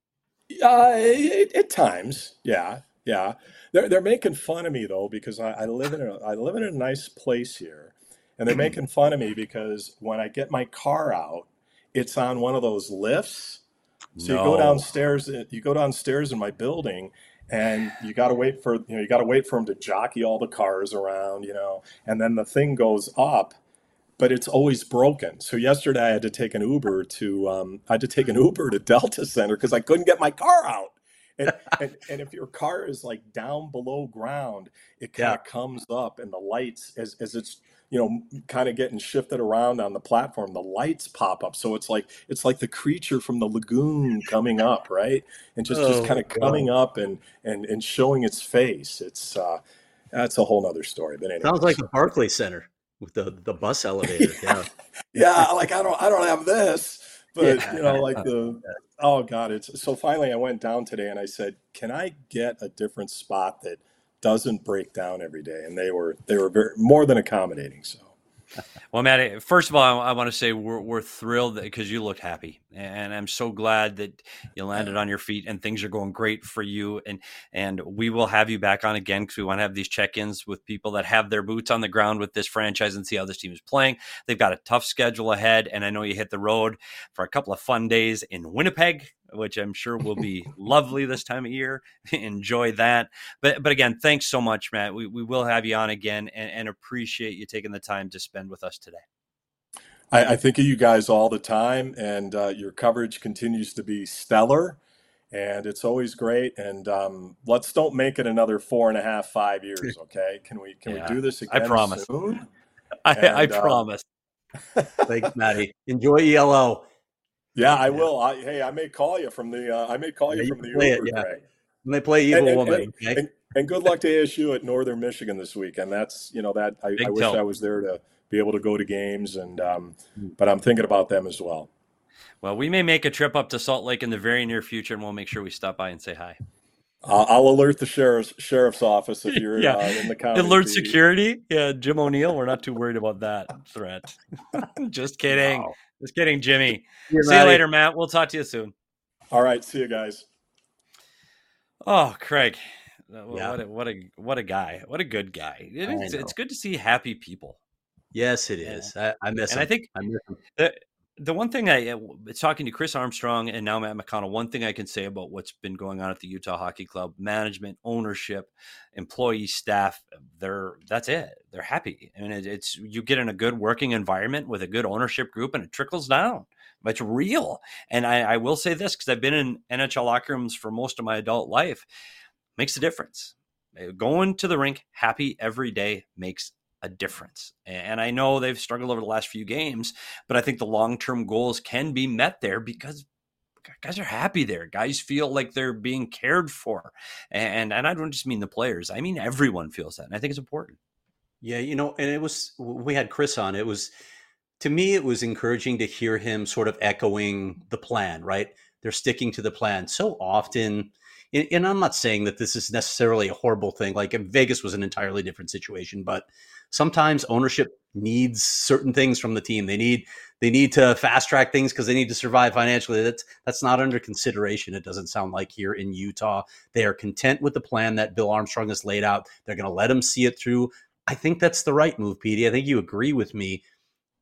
Uh, it, at times, yeah, yeah. They're they're making fun of me though because I, I live in a I live in a nice place here, and they're making fun of me because when I get my car out, it's on one of those lifts. So you go no. downstairs, you go downstairs in my building, and you got to wait for you know you got to wait for them to jockey all the cars around, you know, and then the thing goes up, but it's always broken. So yesterday I had to take an Uber to um, I had to take an Uber to Delta Center because I couldn't get my car out. And, and and if your car is like down below ground, it kind Yeah. of comes up, and the lights as as it's you know kind of getting shifted around on the platform, the lights pop up. So it's like it's like the creature from the lagoon coming up, right? And just just Oh kind of God. coming up and and and showing its face. It's uh, that's a whole nother story. But Sounds like anyways, the Barclays Center with the the bus elevator. Yeah. yeah, like I don't I don't have this, but Yeah. you know, like the oh God, it's so finally I went down today and I said, can I get a different spot that doesn't break down every day? And they were they were very more than accommodating. So Well, Matt, first of all, I, I want to say we're we're thrilled because you look happy, and I'm so glad that you landed on your feet and things are going great for you. And and we will have you back on again because we want to have these check-ins with people that have their boots on the ground with this franchise and see how this team is playing. They've got a tough schedule ahead, and I know you hit the road for a couple of fun days in Winnipeg, which I'm sure will be lovely this time of year. Enjoy that. But but again, thanks so much, Matt. We we will have you on again and, and appreciate you taking the time to spend with us today. I, I think of you guys all the time, and uh, your coverage continues to be stellar, and it's always great. And um, let's don't make it another four and a half, five years, okay? Can we can Yeah, we do this I again promise. soon? I, I And uh, promise. Thanks, Maddie. Enjoy E L O. yeah, I Yeah. will. I, hey, I may call you from the uh, I may call Yeah, you you from can the play it. Uber, Yeah. Greg. When they play And Evil and, Woman. and, Okay. and and good luck to A S U at Northern Michigan this week. And that's you know that I, I Big wish tilt. I was there to be able to go to games, and um, Mm. but I'm thinking about them as well. Well, we may make a trip up to Salt Lake in the very near future, and we'll make sure we stop by and say hi. Uh, I'll alert the sheriff's sheriff's office if you're Yeah. uh, in the county. Alert Be- security. Yeah, Jim O'Neill. We're not too worried about that threat. Just kidding. Wow. Just kidding, Jimmy. See you, See you Maddie. later, Matt. We'll talk to you soon. All right, see you guys. Oh, Craig. Uh, Yeah. What a what a what a guy. What a good guy. It I is, know. it's good to see happy people. Yes, it Yeah. is. I, I miss And him. I think I miss him. the the one thing I it's talking to Chris Armstrong and now Matt McConnell, one thing I can say about what's been going on at the Utah Hockey Club, management, ownership, employee, staff, they're that's it. They're happy. I mean, it, it's you get in a good working environment with a good ownership group, and it trickles down. It's real. And I, I will say this because I've been in N H L locker rooms for most of my adult life, makes a difference. Going to the rink happy every day makes a difference. And I know they've struggled over the last few games, but I think the long-term goals can be met there because guys are happy there. Guys feel like they're being cared for. And, and I don't just mean the players. I mean, everyone feels that. And I think it's important. Yeah, you know, and it was, we had Chris on. It was, to me, it was encouraging to hear him sort of echoing the plan, right? They're sticking to the plan. So often, and and I'm not saying that this is necessarily a horrible thing. Like Vegas was an entirely different situation, but sometimes ownership needs certain things from the team. They need they need to fast track things because they need to survive financially. That's that's not under consideration. It doesn't sound like here in Utah. They are content with the plan that Bill Armstrong has laid out. They're going to let him see it through. I think that's the right move, Petey. I think you agree with me.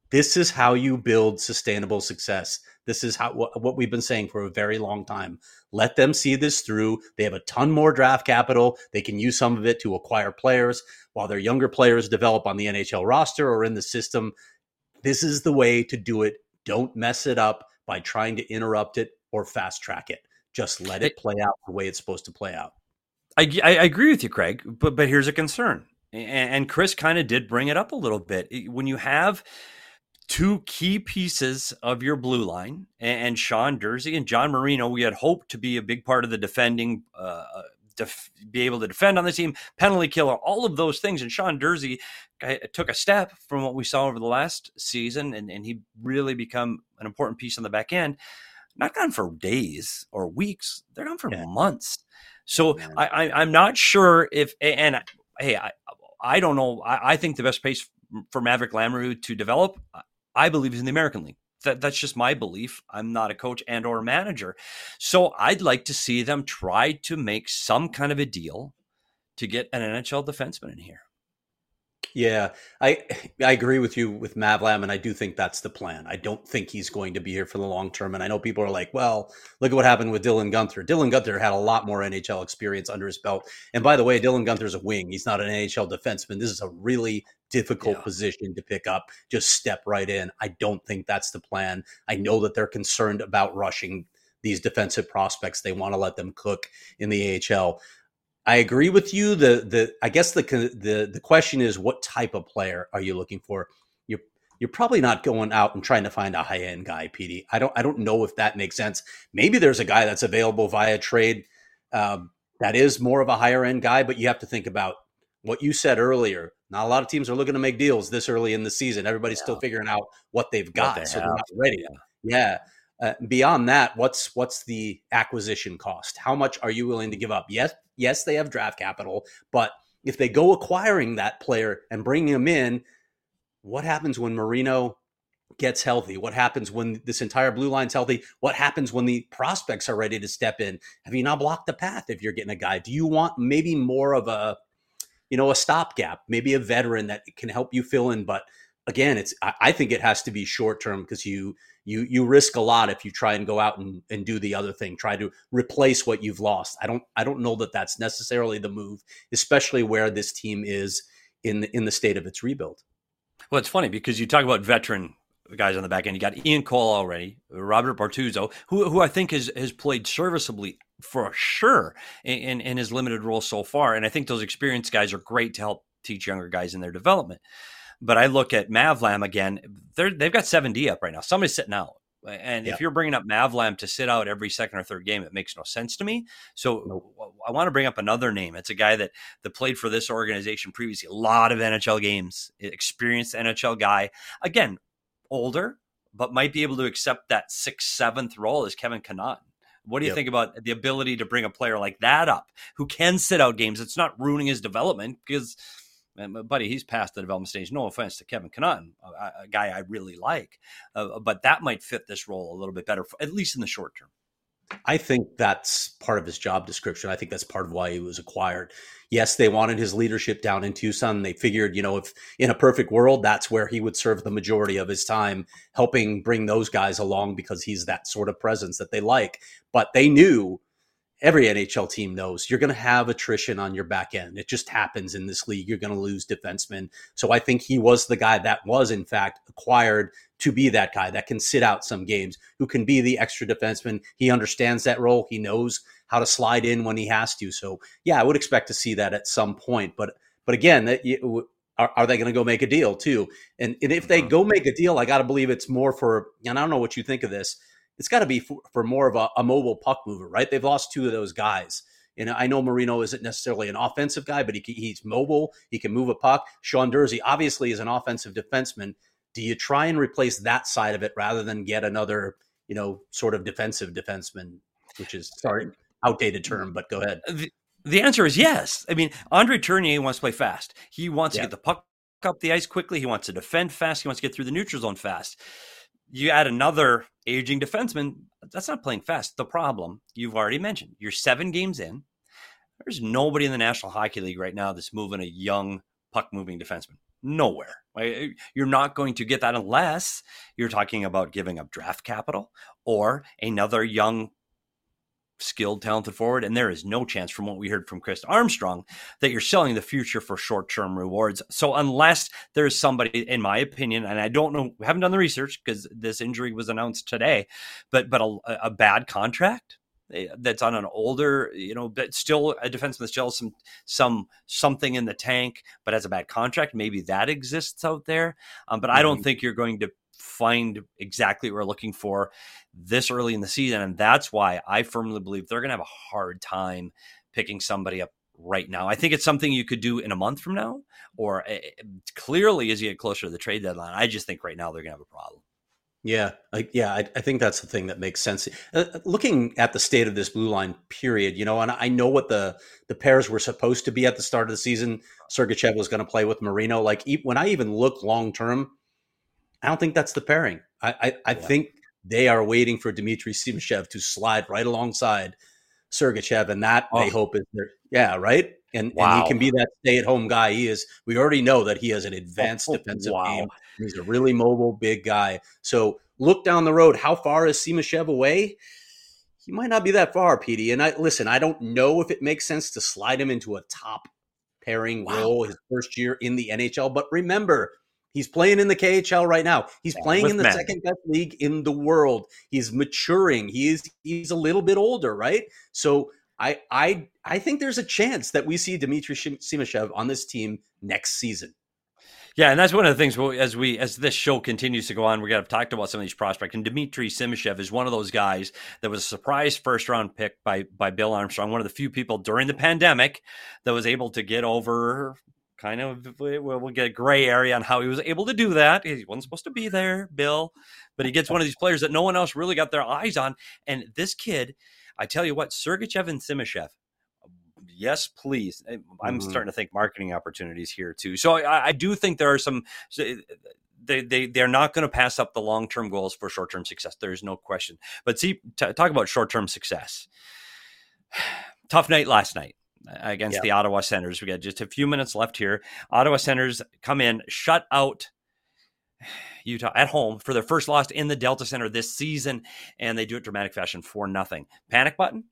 This is how you build sustainable success. This is how what we've been saying for a very long time. Let them see this through. They have a ton more draft capital. They can use some of it to acquire players while their younger players develop on the N H L roster or in the system. This is the way to do it. Don't mess it up by trying to interrupt it or fast track it. Just let it play out the way it's supposed to play out. I, I agree with you, Craig, but but here's a concern. And, and Chris kind of did bring it up a little bit. When you have two key pieces of your blue line, and Sean Durzi and John Marino, we had hoped to be a big part of the defending, uh, def- be able to defend on the team, penalty killer, all of those things. And Sean Durzi took a step from what we saw over the last season, and, and he really become an important piece on the back end. Not gone for days or weeks; they're gone for yeah. months. So yeah. I, I, I'm not sure if, and hey, I, I don't know. I, I think the best place for Maverick Lamoureux to develop, I believe, is in the American League. That, that's just my belief. I'm not a coach and or a manager. So I'd like to see them try to make some kind of a deal to get an N H L defenseman in here. Yeah, I I agree with you with Mavlam, and I do think that's the plan. I don't think he's going to be here for the long term. And I know people are like, well, look at what happened with Dylan Guenther. Dylan Guenther had a lot more N H L experience under his belt. And by the way, Dylan Guenther's a wing. He's not an N H L defenseman. This is a really difficult yeah. position to pick up. Just step right in. I don't think that's the plan. I know that they're concerned about rushing these defensive prospects. They want to let them cook in the A H L. I agree with you. The the I guess the the the question is, what type of player are you looking for? You're you're probably not going out and trying to find a high end guy, P D. I don't I don't know if that makes sense. Maybe there's a guy that's available via trade um, that is more of a higher end guy, but you have to think about what you said earlier. Not a lot of teams are looking to make deals this early in the season. Everybody's yeah. still figuring out what they've got, what they so have. They're not ready. Yeah. yeah. Uh, beyond that, what's what's the acquisition cost? How much are you willing to give up? Yes, yes, they have draft capital, but if they go acquiring that player and bringing him in, what happens when Marino gets healthy? What happens when this entire blue line's healthy? What happens when the prospects are ready to step in? Have you not blocked the path if you're getting a guy? Do you want maybe more of a, you know, a stopgap, maybe a veteran that can help you fill in? But again, it's I, I think it has to be short term because you you you risk a lot if you try and go out and, and do the other thing, try to replace what you've lost. I don't I don't know that that's necessarily the move, especially where this team is in the, in the state of its rebuild. Well, it's funny because you talk about veteran guys on the back end. You got Ian Cole already, Robert Bortuzzo, who who I think has has played serviceably for sure in, in, in his limited role so far. And I think those experienced guys are great to help teach younger guys in their development. But I look at Mavlam again, they're, they've got seven D up right now. Somebody's sitting out. And yeah. if you're bringing up Mavlam to sit out every second or third game, it makes no sense to me. So nope. I want to bring up another name. It's a guy that, that played for this organization previously, a lot of N H L games, experienced N H L guy. Again, older, but might be able to accept that sixth, seventh role as Kevin Connaughton. What do you yep. think about the ability to bring a player like that up who can sit out games? It's not ruining his development because – and buddy, he's past the development stage. No offense to Kevin Connaughton, a, a guy I really like, uh, but that might fit this role a little bit better, at least in the short term. I think that's part of his job description. I think that's part of why he was acquired. Yes, they wanted his leadership down in Tucson. They figured, you know, if in a perfect world, that's where he would serve the majority of his time, helping bring those guys along because he's that sort of presence that they like. But they knew, every N H L team knows, you're going to have attrition on your back end. It just happens in this league. You're going to lose defensemen. So I think he was the guy that was, in fact, acquired to be that guy that can sit out some games, who can be the extra defenseman. He understands that role. He knows how to slide in when he has to. So, yeah, I would expect to see that at some point. But but again, that you, are, are they going to go make a deal too? And, and if they go make a deal, I got to believe it's more for, and I don't know what you think of this, it's got to be for, for more of a, a mobile puck mover, right? They've lost two of those guys. And I know Marino isn't necessarily an offensive guy, but he, he's mobile. He can move a puck. Sean Durzi obviously is an offensive defenseman. Do you try and replace that side of it rather than get another, you know, sort of defensive defenseman, which is, sorry, outdated term, but go ahead. The, the answer is yes. I mean, Andre Tournier wants to play fast. He wants yeah. to get the puck up the ice quickly. He wants to defend fast. He wants to get through the neutral zone fast. You add another aging defenseman, that's not playing fast. The problem you've already mentioned, you're seven games in. There's nobody in the National Hockey League right now that's moving a young puck-moving defenseman. Nowhere. Right? You're not going to get that unless you're talking about giving up draft capital or another young, skilled, talented forward. And there is no chance, from what we heard from Chris Armstrong, that you're selling the future for short-term rewards. So unless there's somebody, in my opinion, and I don't know, we haven't done the research because this injury was announced today, but but a, a bad contract that's on an older, you know, but still a defenseman that still has some some something in the tank, but has a bad contract. Maybe that exists out there. Um, but mm-hmm. I don't think you're going to find exactly what we're looking for this early in the season. And that's why I firmly believe they're going to have a hard time picking somebody up right now. I think it's something you could do in a month from now, or uh, clearly as you get closer to the trade deadline. I just think right now they're going to have a problem. Yeah, I, yeah, I, I think that's the thing that makes sense. Uh, looking at the state of this blue line, period, you know, and I know what the the pairs were supposed to be at the start of the season. Sergachev was going to play with Marino. Like when I even look long term, I don't think that's the pairing. I I, I yeah. think they are waiting for Dmitry Simashev to slide right alongside Sergachev, and that oh. they hope is their yeah right. And, wow. and he can be that stay-at-home guy. He is. We already know that he has an advanced oh, defensive wow. game. He's a really mobile, big guy. So look down the road. How far is Simashev away? He might not be that far, Petey. And I listen. I don't know if it makes sense to slide him into a top pairing wow. role his first year in the N H L. But remember, he's playing in the K H L right now. He's yeah, playing in the men. second best league in the world. He's maturing. He is. He's a little bit older, right? So. I I I think there's a chance that we see Dmitry Simashev on this team next season. Yeah, and that's one of the things as we as this show continues to go on, we're going to have talked about some of these prospects. And Dmitry Simashev is one of those guys that was a surprise first round pick by by Bill Armstrong, one of the few people during the pandemic that was able to get over kind of we'll get a gray area on how he was able to do that. He wasn't supposed to be there, Bill, but he gets one of these players that no one else really got their eyes on. And this kid, I tell you what, Sergachev and Simashev, yes, please. I'm mm-hmm. starting to think marketing opportunities here too. So I, I do think there are some. They they they're not going to pass up the long term goals for short term success. There's no question. But see, t- talk about short term success. Tough night last night against yeah. the Ottawa Senators. We got just a few minutes left here. Ottawa Senators come in, shut out Utah at home for their first loss in the Delta Center this season, and they do it dramatic fashion for nothing. Panic button?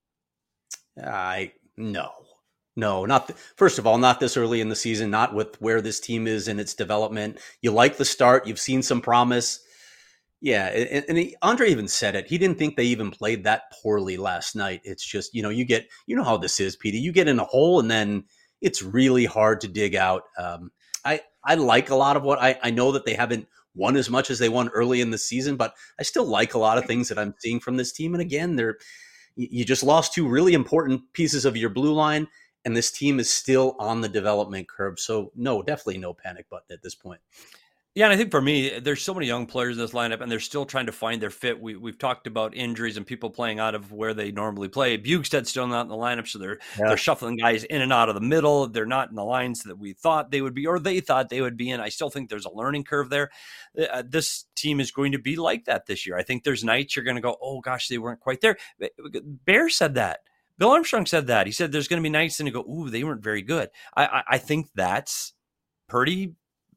I no, no, not th- first of all, not this early in the season, not with where this team is in its development. You like the start, you've seen some promise. Yeah, and, and he, Andre even said it. He didn't think they even played that poorly last night. It's just, you know, you get, you know how this is, Petey. You get in a hole and then it's really hard to dig out. Um, I I like a lot of what I, I know that they haven't won as much as they won early in the season, but I still like a lot of things that I'm seeing from this team. And again, they're you just lost two really important pieces of your blue line, and this team is still on the development curve. So no, definitely no panic button at this point. Yeah, and I think for me, there's so many young players in this lineup, and they're still trying to find their fit. We, we've talked about injuries and people playing out of where they normally play. Bugsted's still not in the lineup, so they're yeah. they're shuffling guys in and out of the middle. They're not in the lines that we thought they would be, or they thought they would be in. I still think there's a learning curve there. Uh, this team is going to be like that this year. I think there's nights you're going to go, oh, gosh, they weren't quite there. Bear said that. Bill Armstrong said that. He said there's going to be nights and you go, ooh, they weren't very good. I, I, I think that's pretty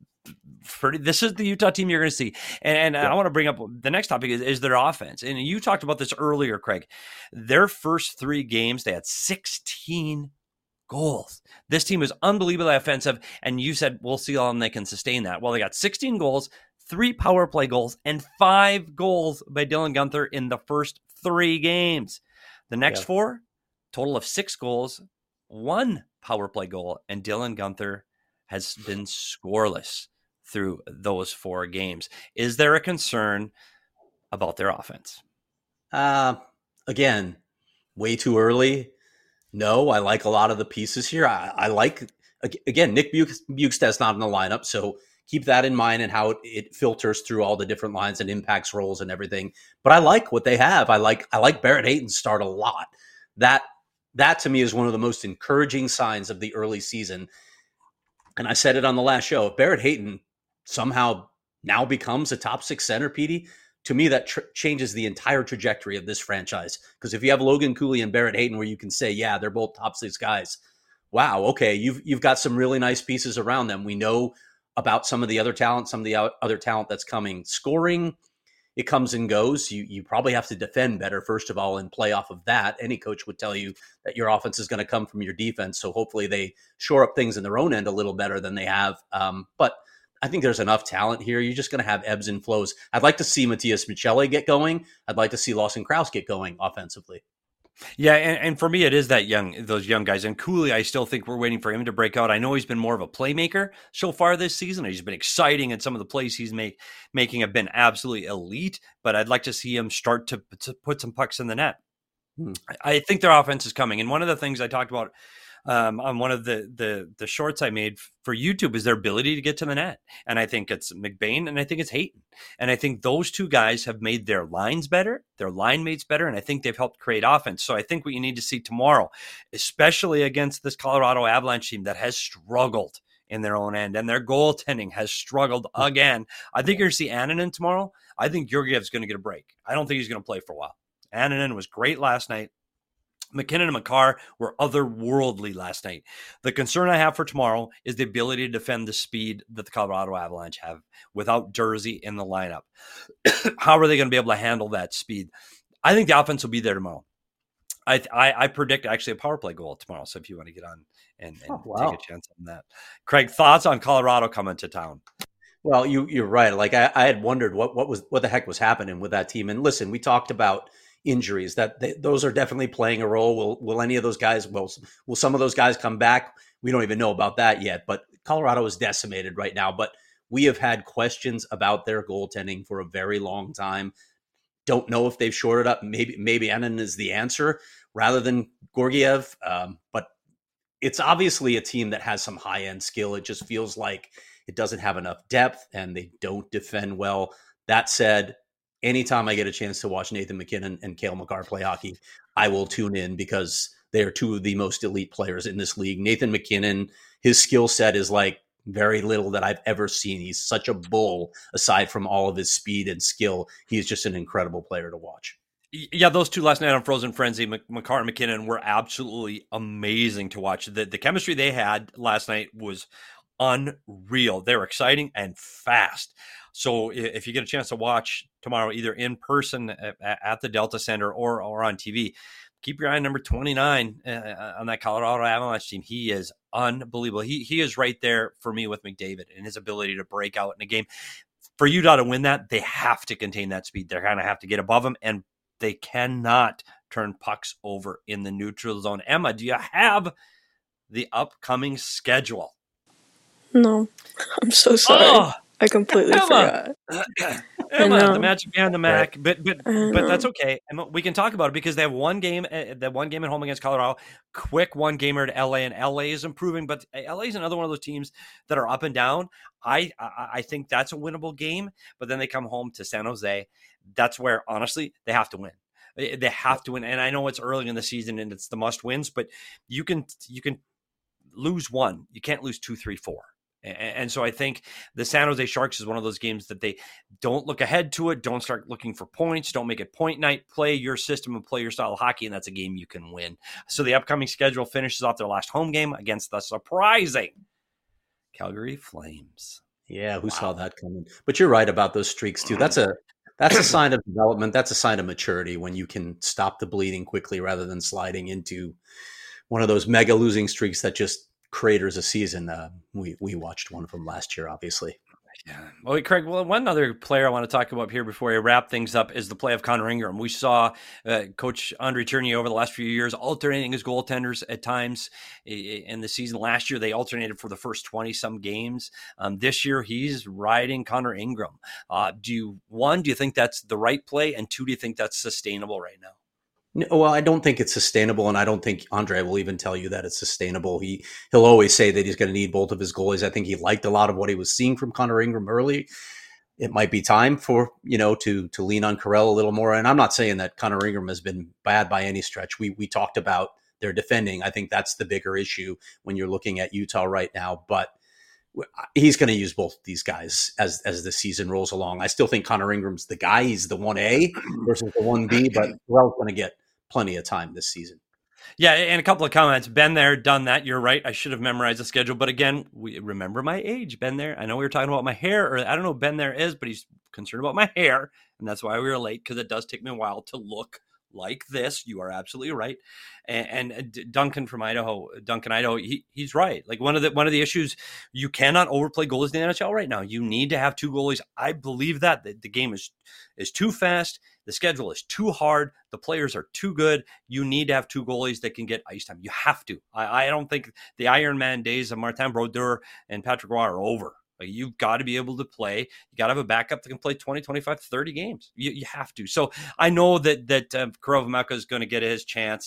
Pretty, this is the Utah team you're going to see. And, and yeah. I want to bring up the next topic is, is their offense. And you talked about this earlier, Craig. Their first three games, they had sixteen goals. This team is unbelievably offensive. And you said, we'll see how long they can sustain that. Well, they got sixteen goals, three power play goals, and five goals by Dylan Guenther in the first three games. The next yeah. four, total of six goals, one power play goal, and Dylan Guenther has been scoreless through those four games. Is there a concern about their offense? Uh, again, way too early. No, I like a lot of the pieces here. I, I like, again, Nick Bjugstad's not in the lineup, so keep that in mind and how it, it filters through all the different lines and impacts roles and everything. But I like what they have. I like I like Barrett Hayton's start a lot. That that to me is one of the most encouraging signs of the early season. And I said it on the last show. If Barrett Hayton somehow now becomes a top six center, Petey, to me, that tr- changes the entire trajectory of this franchise. Because if you have Logan Cooley and Barrett Hayton where you can say, yeah, they're both top six guys. Wow, okay, you've you've got some really nice pieces around them. We know about some of the other talent, some of the other talent that's coming. Scoring, it comes and goes. You you probably have to defend better, first of all, and play off of that. Any coach would tell you that your offense is going to come from your defense. So hopefully they shore up things in their own end a little better than they have. Um, but I think there's enough talent here. You're just going to have ebbs and flows. I'd like to see Matias Michele get going. I'd like to see Lawson Krause get going offensively. Yeah, and, and for me, it is that young, those young guys. And Cooley, I still think we're waiting for him to break out. I know he's been more of a playmaker so far this season. He's been exciting, and some of the plays he's make, making have been absolutely elite. But I'd like to see him start to, to put some pucks in the net. Hmm. I, I think their offense is coming. And one of the things I talked about um, on one of the, the the shorts I made for YouTube is their ability to get to the net. And I think it's McBain and I think it's Hayton. And I think those two guys have made their lines better, their line mates better, and I think they've helped create offense. So I think what you need to see tomorrow, especially against this Colorado Avalanche team that has struggled in their own end, and their goaltending has struggled again. I think you're going to see Annunen tomorrow. I think Georgiev's going to get a break. I don't think he's going to play for a while. Annunen was great last night. McKinnon and Makar were otherworldly last night. The concern I have for tomorrow is the ability to defend the speed that the Colorado Avalanche have without Jersey in the lineup. How are they going to be able to handle that speed? I think the offense will be there tomorrow. I I, I predict actually a power play goal tomorrow. So if you want to get on and, and oh, wow. take a chance on that. Craig, thoughts on Colorado coming to town? Well, you, you're right. Like I, I had wondered what, what was what the heck was happening with that team. And listen, we talked about injuries that they, those are definitely playing a role. Will will any of those guys? Will will some of those guys come back? We don't even know about that yet. But Colorado is decimated right now. But we have had questions about their goaltending for a very long time. Don't know if they've shored it up. Maybe maybe Annunen is the answer rather than Georgiev. Um, but it's obviously a team that has some high end skill. It just feels like it doesn't have enough depth and they don't defend well. That said, anytime I get a chance to watch Nathan MacKinnon and Cale Makar play hockey, I will tune in because they are two of the most elite players in this league. Nathan MacKinnon, his skill set is like very little that I've ever seen. He's such a bull aside from all of his speed and skill. He's just an incredible player to watch. Yeah, those two last night on Frozen Frenzy, Makar and MacKinnon, were absolutely amazing to watch. The, the chemistry they had last night was unreal. They were exciting and fast. So if you get a chance to watch tomorrow, either in person at, at the Delta Center or, or on T V, keep your eye on number twenty-nine uh, on that Colorado Avalanche team. He is unbelievable. He he is right there for me with McDavid and his ability to break out in a game. For Utah to win that, they have to contain that speed. They're going to have to get above him, and they cannot turn pucks over in the neutral zone. Emma, do you have the upcoming schedule? No, I'm so sorry. Oh, I completely Emma. forgot. Emma, the magic behind the Mac, but but but that's okay. Emma, we can talk about it because they have one game, uh, that one game at home against Colorado, quick one gamer to L A, and L A is improving, but L A is another one of those teams that are up and down. I I, I think that's a winnable game, but then they come home to San Jose. That's where honestly they have to win. They have to win, and I know it's early in the season and it's the must wins, but you can you can lose one, you can't lose two, three, four. And so I think the San Jose Sharks is one of those games that they don't look ahead to it. Don't start looking for points. Don't make it point night. Play your system and play your style of hockey, and that's a game you can win. So the upcoming schedule finishes off their last home game against the surprising Calgary Flames. Yeah, who wow. saw that coming? But you're right about those streaks too. That's a that's a sign of development. That's a sign of maturity when you can stop the bleeding quickly rather than sliding into one of those mega losing streaks that just craters a season. Uh, we we watched one of them last year, obviously. Yeah. Well, Craig, well, one other player I want to talk about here before I wrap things up is the play of Connor Ingram. We saw uh, Coach Andre Tournier over the last few years alternating his goaltenders at times in the season. Last year, they alternated for the first twenty-some games. Um, this year, he's riding Connor Ingram. Uh, do you, one, do you think that's the right play? And two, do you think that's sustainable right now? No, well, I don't think it's sustainable, and I don't think Andre will even tell you that it's sustainable. He, he'll always say that he's going to need both of his goalies. I think he liked a lot of what he was seeing from Connor Ingram early. It might be time for, you know, to to lean on Carell a little more. And I'm not saying that Connor Ingram has been bad by any stretch. We we talked about their defending. I think that's the bigger issue when you're looking at Utah right now. But he's going to use both of these guys as as the season rolls along. I still think Connor Ingram's the guy. He's the one A versus the one B, but Carell's going to get plenty of time this season. Yeah, and a couple of comments. Been there, done that. You're right. I should have memorized the schedule. But again, we remember my age. Been there. I know we were talking about my hair, or I don't know what Ben there is, but he's concerned about my hair. And that's why we were late, because it does take me a while to look like this. You are absolutely right. And, and Duncan from Idaho, Duncan, Idaho, he, he's right. Like one of the one of the issues, you cannot overplay goalies in the N H L right now. You need to have two goalies. I believe that the, the game is is too fast. The schedule is too hard. The players are too good. You need to have two goalies that can get ice time. You have to. I, I don't think the Iron Man days of Martin Brodeur and Patrick Roy are over. Like, you've got to be able to play. You got to have a backup that can play twenty, twenty-five, thirty games. You, you have to. So I know that that uh, Kurov is going to get his chance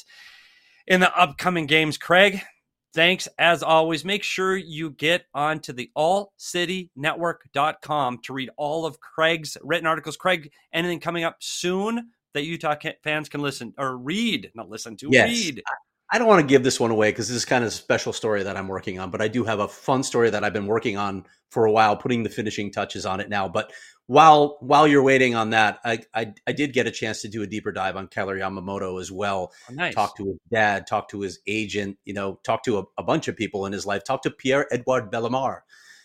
in the upcoming games. Craig, thanks as always. Make sure you get onto the all city network dot com to read all of Craig's written articles. Craig, anything coming up soon that Utah fans can listen or read, not listen to, yes. read? I don't want to give this one away because this is kind of a special story that I'm working on, but I do have a fun story that I've been working on for a while, putting the finishing touches on it now. But while while you're waiting on that, I I, I did get a chance to do a deeper dive on Kailer Yamamoto as well. Oh, nice. Talk to his dad, talk to his agent, you know, talk to a, a bunch of people in his life, talk to Pierre-Edouard Bellemare.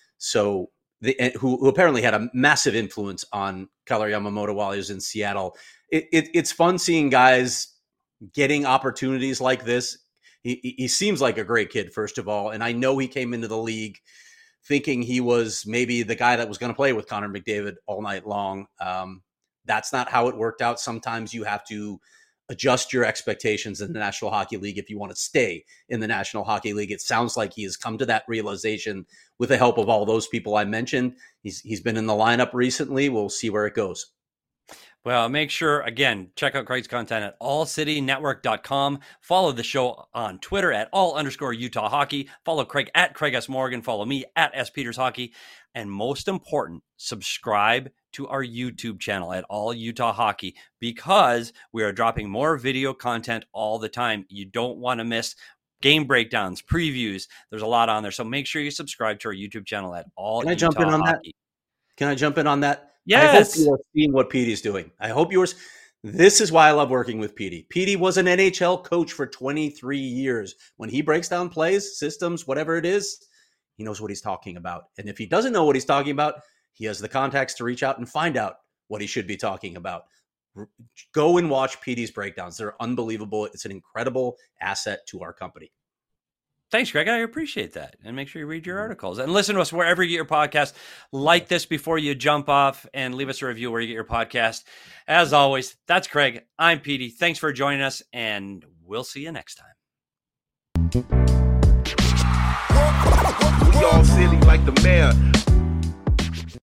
So the, who, who apparently had a massive influence on Kailer Yamamoto while he was in Seattle. It, it, it's fun seeing guys getting opportunities like this. He, he seems like a great kid, first of all. And I know he came into the league thinking he was maybe the guy that was going to play with Connor McDavid all night long. Um, that's not how it worked out. Sometimes you have to adjust your expectations in the National Hockey League if you want to stay in the National Hockey League. It sounds like he has come to that realization with the help of all those people I mentioned. He's He's been in the lineup recently. We'll see where it goes. Well, make sure, again, check out Craig's content at all city network dot com. Follow the show on Twitter at all underscore Utah Hockey. Follow Craig at Craig S. Morgan. Follow me at S. Peters Hockey. And most important, subscribe to our YouTube channel at All Utah Hockey, because we are dropping more video content all the time. You don't want to miss game breakdowns, previews. There's a lot on there. So make sure you subscribe to our YouTube channel at All Can I Utah jump in on Hockey. that? Can I jump in on that? Yes. I hope you are seeing what Petey's doing. I hope yours. This is why I love working with Petey. Petey was an N H L coach for twenty-three years. When he breaks down plays, systems, whatever it is, he knows what he's talking about. And if he doesn't know what he's talking about, he has the contacts to reach out and find out what he should be talking about. Go and watch Petey's breakdowns. They're unbelievable. It's an incredible asset to our company. Thanks, Greg. I appreciate that. And make sure you read your articles and listen to us wherever you get your podcast. Like this before you jump off, and leave us a review where you get your podcast. As always, that's Craig. I'm Petey. Thanks for joining us, and we'll see you next time. We all silly like the mayor.